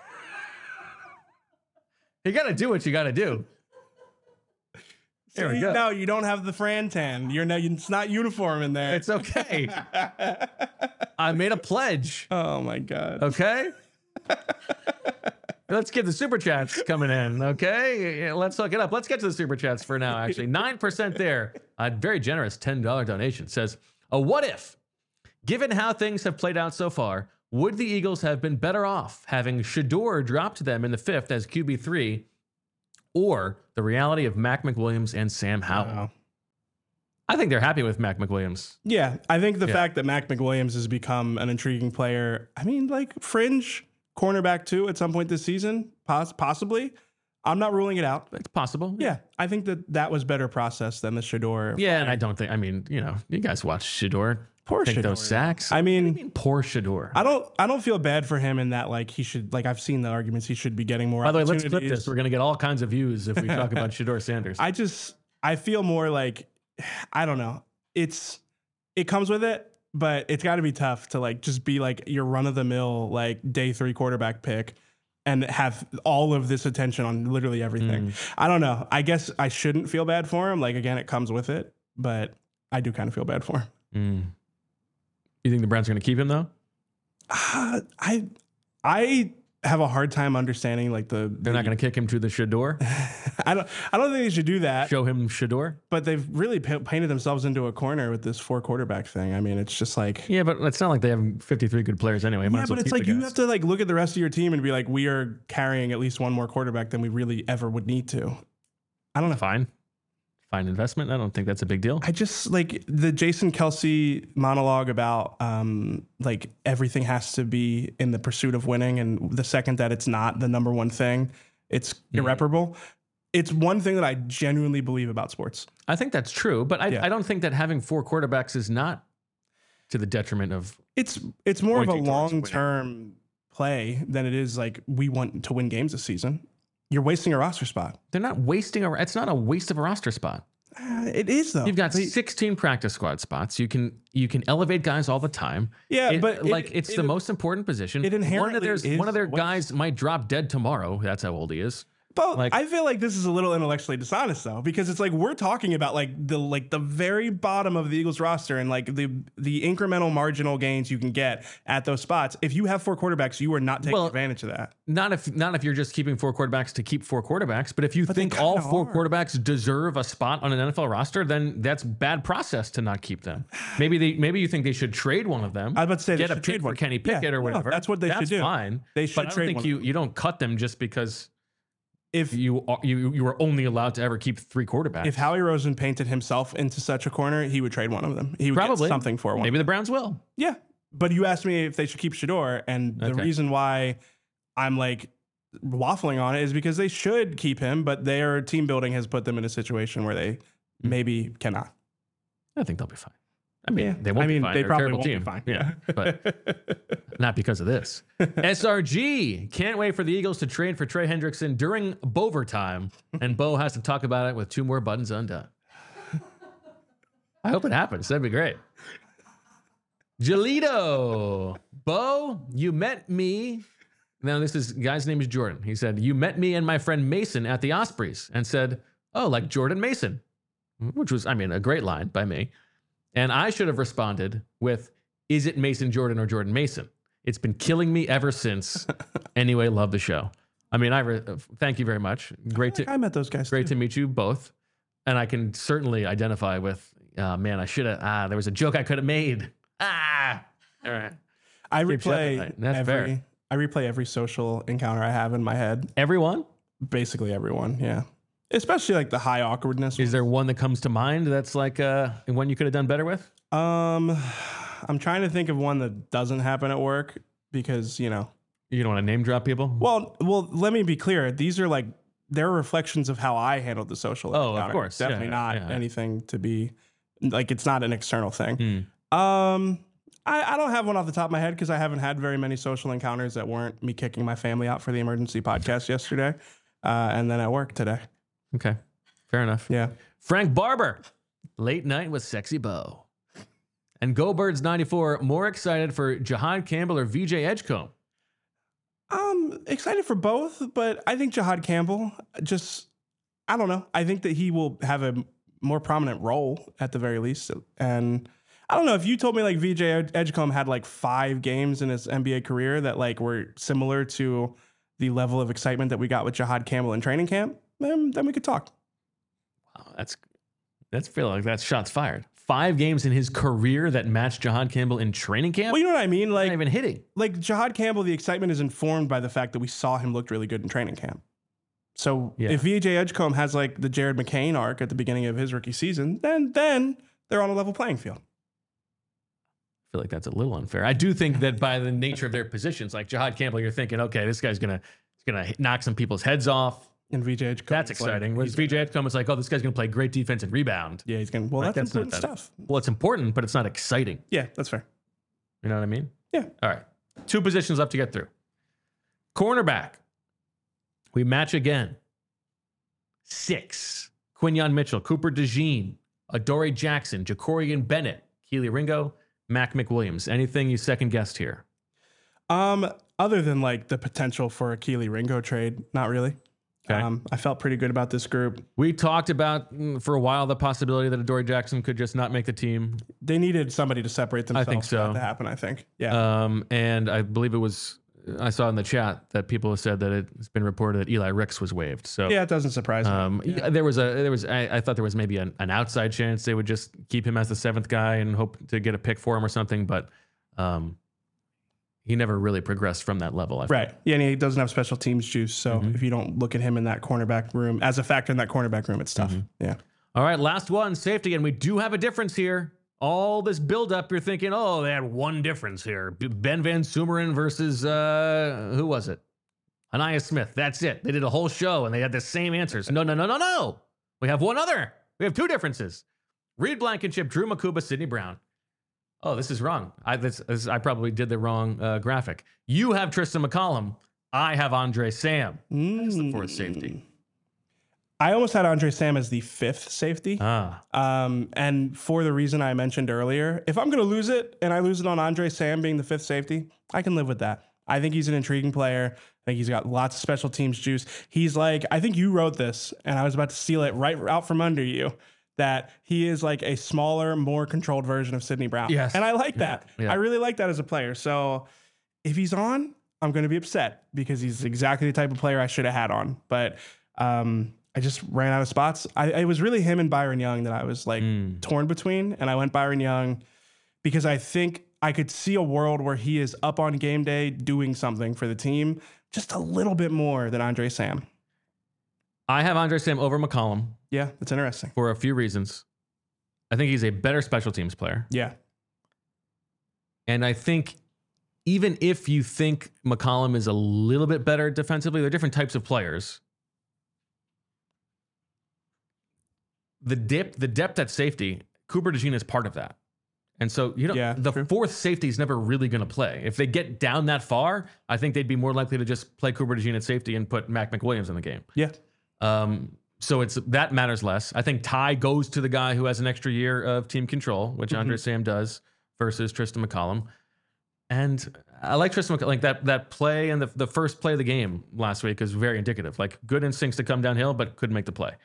Speaker 1: You got to do what you got to do. There we go.
Speaker 2: No, you don't have the Fran tan. It's not uniform in there.
Speaker 1: It's okay. I made a pledge.
Speaker 2: Oh my God.
Speaker 1: Okay. Let's get the super chats coming in. Okay. Let's hook it up. Let's get to the super chats for now. Actually, 9% there. A very generous $10 donation says, what if, given how things have played out so far, would the Eagles have been better off having Shedeur dropped to them in the 5th as QB3, or the reality of Mac McWilliams and Sam Howell? Wow. I think they're happy with Mac McWilliams.
Speaker 2: Yeah, I think the fact that Mac McWilliams has become an intriguing player, I mean, like fringe cornerback too at some point this season, possibly. I'm not ruling it out.
Speaker 1: It's possible.
Speaker 2: Yeah, I think that was better process than the Shedeur.
Speaker 1: Yeah, and I don't think, you guys watch Shedeur.
Speaker 2: Poor Shedeur.
Speaker 1: Those sacks.
Speaker 2: I mean,
Speaker 1: poor Shedeur.
Speaker 2: I don't feel bad for him in that he should, I've seen the arguments he should be getting more.
Speaker 1: By the way, let's flip this. We're going to get all kinds of views if we talk about Shedeur Sanders.
Speaker 2: I feel more like, I don't know. It comes with it. but it's got to be tough to like just be like your run of the mill like day 3 quarterback pick and have all of this attention on literally everything. I don't know. I guess I shouldn't feel bad for him. Like, again, it comes with it, but I do kind of feel bad for him.
Speaker 1: You think the Browns are going to keep him though?
Speaker 2: I have a hard time understanding like they're
Speaker 1: not going to kick him to the Shador.
Speaker 2: I don't think they should do that.
Speaker 1: Show him Shador.
Speaker 2: But they've really painted themselves into a corner with this 4 quarterback thing. I mean, it's just like,
Speaker 1: yeah, but it's not like they have 53 good players anyway.
Speaker 2: Yeah, but it's like you have to like look at the rest of your team and be like, we are carrying at least one more quarterback than we really ever would need to. I don't know.
Speaker 1: Fine investment. I don't think that's a big deal.
Speaker 2: I just like the Jason Kelce monologue about like everything has to be in the pursuit of winning, and the second that it's not the number one thing, it's irreparable. It's one thing that I genuinely believe about sports.
Speaker 1: I think that's true, but I don't think that having 4 quarterbacks is not to the detriment of.
Speaker 2: It's more of a long-term play than it is like we want to win games this season. You're wasting a roster spot.
Speaker 1: They're not wasting it's not a waste of a roster spot.
Speaker 2: It is though.
Speaker 1: You've got 16 practice squad spots. You can elevate guys all the time.
Speaker 2: Yeah,
Speaker 1: it's the most important position.
Speaker 2: It inherently
Speaker 1: one of their guys might drop dead tomorrow. That's how old he is.
Speaker 2: But like, I feel like this is a little intellectually dishonest though, because it's like we're talking about like the very bottom of the Eagles roster and like the incremental marginal gains you can get at those spots. If you have 4 quarterbacks, you are not taking advantage of that.
Speaker 1: Not if you're just keeping 4 quarterbacks to keep 4 quarterbacks, but if you think all 4 quarterbacks deserve a spot on an NFL roster, then that's bad process to not keep them. Maybe you think they should trade one of them.
Speaker 2: I was about to say
Speaker 1: get a pick for Kenny Pickett or whatever.
Speaker 2: That's what they should do.
Speaker 1: That's fine.
Speaker 2: They should.
Speaker 1: But I don't think you don't cut them just because. If you were only allowed to ever keep 3 quarterbacks.
Speaker 2: If Howie Roseman painted himself into such a corner, he would trade one of them. He would
Speaker 1: probably
Speaker 2: get something for one.
Speaker 1: Maybe the Browns will.
Speaker 2: Yeah, but you asked me if they should keep Shador, and the reason why I'm like waffling on it is because they should keep him, but their team building has put them in a situation where they maybe cannot.
Speaker 1: I think they'll be fine. I mean, they won't be fine.
Speaker 2: They
Speaker 1: They're
Speaker 2: probably
Speaker 1: a
Speaker 2: won't
Speaker 1: team.
Speaker 2: be fine.
Speaker 1: Yeah, but not because of this. SRG can't wait for the Eagles to trade for Trey Hendrickson during Bover time, and Bo has to talk about it with 2 more buttons undone. I hope it happens. That'd be great. Jalito, Bo, you met me. Now guy's name is Jordan. He said, you met me and my friend Mason at the Ospreys and said, oh, like Jordan Mason, which was, a great line by me. And I should have responded with, is it Mason Jordan or Jordan Mason? It's been killing me ever since. Anyway, love the show. Thank you very much.
Speaker 2: I met those guys.
Speaker 1: Great to meet you both. And I can certainly identify with, man, I should have, there was a joke I could have made. All right.
Speaker 2: I replay every social encounter I have in my head.
Speaker 1: Everyone?
Speaker 2: Basically everyone, yeah. Especially like the high awkwardness.
Speaker 1: Is there one that comes to mind that's like one you could have done better with?
Speaker 2: I'm trying to think of one that doesn't happen at work because, you don't
Speaker 1: want to name drop people?
Speaker 2: Well, let me be clear. These are like, they're reflections of how I handled the social encounter.
Speaker 1: Of course.
Speaker 2: Definitely not anything to be like, it's not an external thing. I don't have one off the top of my head because I haven't had very many social encounters that weren't me kicking my family out for the emergency podcast yesterday. And then at work today.
Speaker 1: Okay. Fair enough.
Speaker 2: Yeah.
Speaker 1: Frank Barber, late night with Sexy Bo. And Go Birds 94, more excited for Jahad Campbell or VJ Edgecombe?
Speaker 2: I'm excited for both, but I think Jahad Campbell I don't know. I think that he will have a more prominent role at the very least. And I don't know, if you told me like VJ Edgecombe had like 5 games in his NBA career that like were similar to the level of excitement that we got with Jahad Campbell in training camp, then we could talk.
Speaker 1: Wow, that's feel like that's shots fired. 5 games in his career that matched Jahad Campbell in training camp?
Speaker 2: Well, you know what I mean? Like,
Speaker 1: not even hitting.
Speaker 2: Like Jahad Campbell, the excitement is informed by the fact that we saw him look really good in training camp. So if VJ Edgecombe has like the Jared McCain arc at the beginning of his rookie season, then they're on a level playing field.
Speaker 1: I feel like that's a little unfair. I do think that by the nature of their positions, like Jahad Campbell, you're thinking, okay, this guy's gonna knock some people's heads off.
Speaker 2: And VJ Edgecombe,
Speaker 1: that's exciting. Whereas VJ Edgecombe is like, oh, this guy's gonna play great defense and rebound.
Speaker 2: Yeah, he's gonna. Well, that's important stuff.
Speaker 1: Well, it's important, but it's not exciting.
Speaker 2: Yeah, that's fair.
Speaker 1: You know what I mean?
Speaker 2: Yeah.
Speaker 1: All right. 2 positions left to get through. Cornerback. We match again. 6. Quinyon Mitchell, Cooper DeJean, Adoree Jackson, Jacorian Bennett, Keely Ringo, Mac McWilliams. Anything you second guessed here?
Speaker 2: Other than like the potential for a Keely Ringo trade, not really.
Speaker 1: Okay.
Speaker 2: I felt pretty good about this group.
Speaker 1: We talked about for a while the possibility that Adoree Jackson could just not make the team.
Speaker 2: They needed somebody to separate themselves.
Speaker 1: I think so.
Speaker 2: For that to happen, I think. Yeah.
Speaker 1: And I believe I saw in the chat that people have said that it's been reported that Eli Ricks was waived. So
Speaker 2: yeah, it doesn't surprise me.
Speaker 1: Yeah. I thought there was maybe an outside chance they would just keep him as the 7th guy and hope to get a pick for him or something, but he never really progressed from that level.
Speaker 2: Right. Yeah, and he doesn't have special teams juice. So if you don't look at him in that cornerback room, as a factor in that cornerback room, it's tough. Yeah.
Speaker 1: All right, last one, safety. And we do have a difference here. All this buildup, you're thinking, oh, they had one difference here. Ben Van Sumeren versus, who was it? Anaya Smith. That's it. They did a whole show and they had the same answers. No. We have one other. We have 2 differences. Reed Blankenship, Drew Makuba, Sidney Brown. Oh, this is wrong. I probably did the wrong graphic. You have Tristan McCollum. I have Andre Sam as the 4th safety.
Speaker 2: I almost had Andre Sam as the 5th safety. And for the reason I mentioned earlier, if I'm going to lose it and I lose it on Andre Sam being the 5th safety, I can live with that. I think he's an intriguing player. I think he's got lots of special teams juice. He's like, I think you wrote this and I was about to steal it right out from under you, that he is like a smaller, more controlled version of Sidney Brown.
Speaker 1: Yes.
Speaker 2: And I like that.
Speaker 1: Yeah.
Speaker 2: I really like that as a player. So if he's on, I'm going to be upset because he's exactly the type of player I should have had on. But I just ran out of spots. It was really him and Byron Young that I was like torn between. And I went Byron Young because I think I could see a world where he is up on game day doing something for the team just a little bit more than Andre Sam.
Speaker 1: I have Andre Sam over McCollum.
Speaker 2: Yeah, that's interesting.
Speaker 1: For a few reasons. I think he's a better special teams player.
Speaker 2: Yeah.
Speaker 1: And I think even if you think McCollum is a little bit better defensively, they're different types of players. The depth at safety, Cooper DeJean is part of that. And so, the 4th safety is never really going to play. If they get down that far, I think they'd be more likely to just play Cooper DeJean at safety and put Mac McWilliams in the game.
Speaker 2: Yeah.
Speaker 1: So that matters less. I think Ty goes to the guy who has an extra year of team control, which Andre Sam does, versus Tristan McCollum. And I like Tristan McCollum. Like that play and the first play of the game last week is very indicative. Like good instincts to come downhill, but couldn't make the play.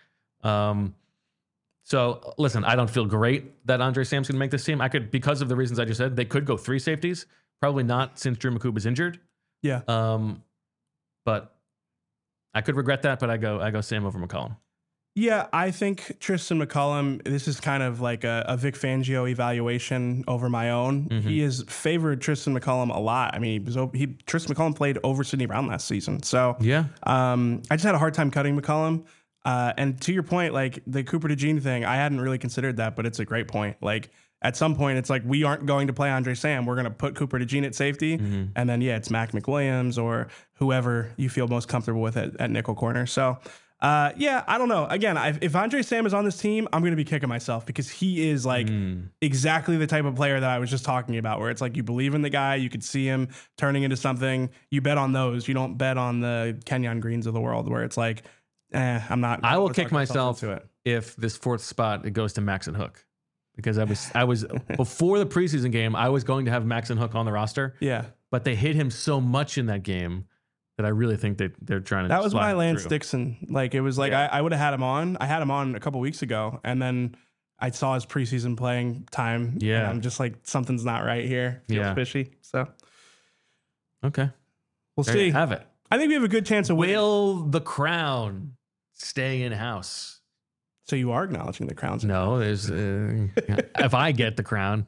Speaker 1: So listen, I don't feel great that Andre Sam's going to make this team. Because of the reasons I just said, they could go 3 safeties. Probably not since Drew Makuba is injured.
Speaker 2: Yeah.
Speaker 1: But I could regret that, but I go Sam over McCollum.
Speaker 2: Yeah, I think Tristan McCollum, this is kind of like a Vic Fangio evaluation over my own. He has favored Tristan McCollum a lot. I mean, Tristan McCollum played over Sidney Brown last season. So
Speaker 1: yeah,
Speaker 2: I just had a hard time cutting McCollum. And to your point, like the Cooper DeJean thing, I hadn't really considered that, but it's a great point. Like at some point, it's like we aren't going to play Andre Sam. We're going to put Cooper DeJean at safety. And then, it's Mac McWilliams or whoever you feel most comfortable with at nickel corner. So, I don't know. Again, if Andre Sam is on this team, I'm going to be kicking myself because he is like exactly the type of player that I was just talking about, where it's like you believe in the guy, you could see him turning into something. You bet on those. You don't bet on the Kenyon Greens of the world where it's like, I'm not.
Speaker 1: I will kick myself if this 4th spot it goes to Max and Hook, because I was before the preseason game I was going to have Max and Hook on the roster.
Speaker 2: Yeah,
Speaker 1: but they hit him so much in that game that I really think they're trying to.
Speaker 2: That was my Lance Dixon. Like it was like I would have had him on. I had him on a couple weeks ago, and then I saw his preseason playing time.
Speaker 1: Yeah,
Speaker 2: and I'm just like something's not right here. Feels fishy. So
Speaker 1: okay,
Speaker 2: we'll see.
Speaker 1: You have it.
Speaker 2: I think we have a good chance of winning.
Speaker 1: Will the crown stay in house?
Speaker 2: So you are acknowledging the crown's
Speaker 1: no. There's if I get the crown,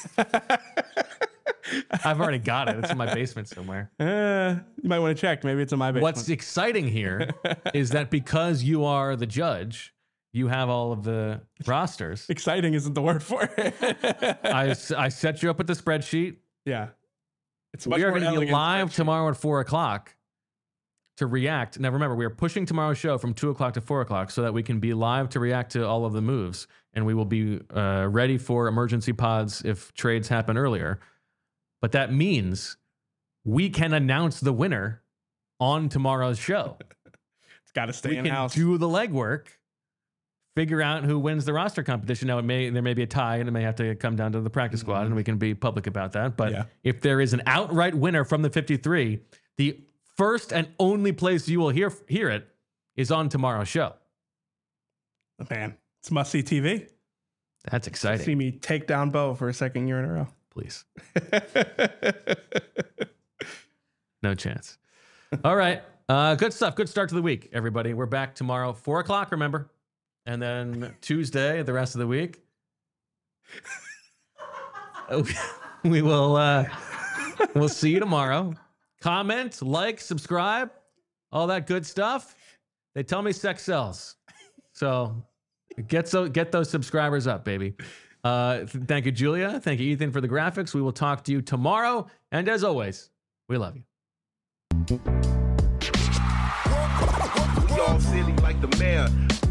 Speaker 1: I've already got it. It's in my basement somewhere.
Speaker 2: You might want to check. Maybe it's in my basement.
Speaker 1: What's exciting here is that because you are the judge, you have all of the rosters.
Speaker 2: Exciting isn't the word for it.
Speaker 1: I set you up with the spreadsheet.
Speaker 2: Yeah.
Speaker 1: We are going to be live tomorrow at 4:00 to react. Now, remember, we are pushing tomorrow's show from 2:00 to 4:00 so that we can be live to react to all of the moves. And we will be ready for emergency pods if trades happen earlier. But that means we can announce the winner on tomorrow's show.
Speaker 2: It's got to stay in house.
Speaker 1: We can do the legwork, figure out who wins the roster competition. Now, there may be a tie, and it may have to come down to the practice squad, and we can be public about that. But if there is an outright winner from the 53, the first and only place you will hear it is on tomorrow's show.
Speaker 2: Man, it's must-see TV.
Speaker 1: That's exciting.
Speaker 2: See me take down Bo for a second year in a row.
Speaker 1: Please. No chance. All right. Good stuff. Good start to the week, everybody. We're back tomorrow, 4 o'clock, remember? And then Tuesday, the rest of the week. We will we'll see you tomorrow. Comment, like, subscribe, all that good stuff. They tell me sex sells. So get those subscribers up, baby. Thank you, Julia. Thank you, Ethan, for the graphics. We will talk to you tomorrow. And as always, we love you.
Speaker 3: We all silly like the mayor.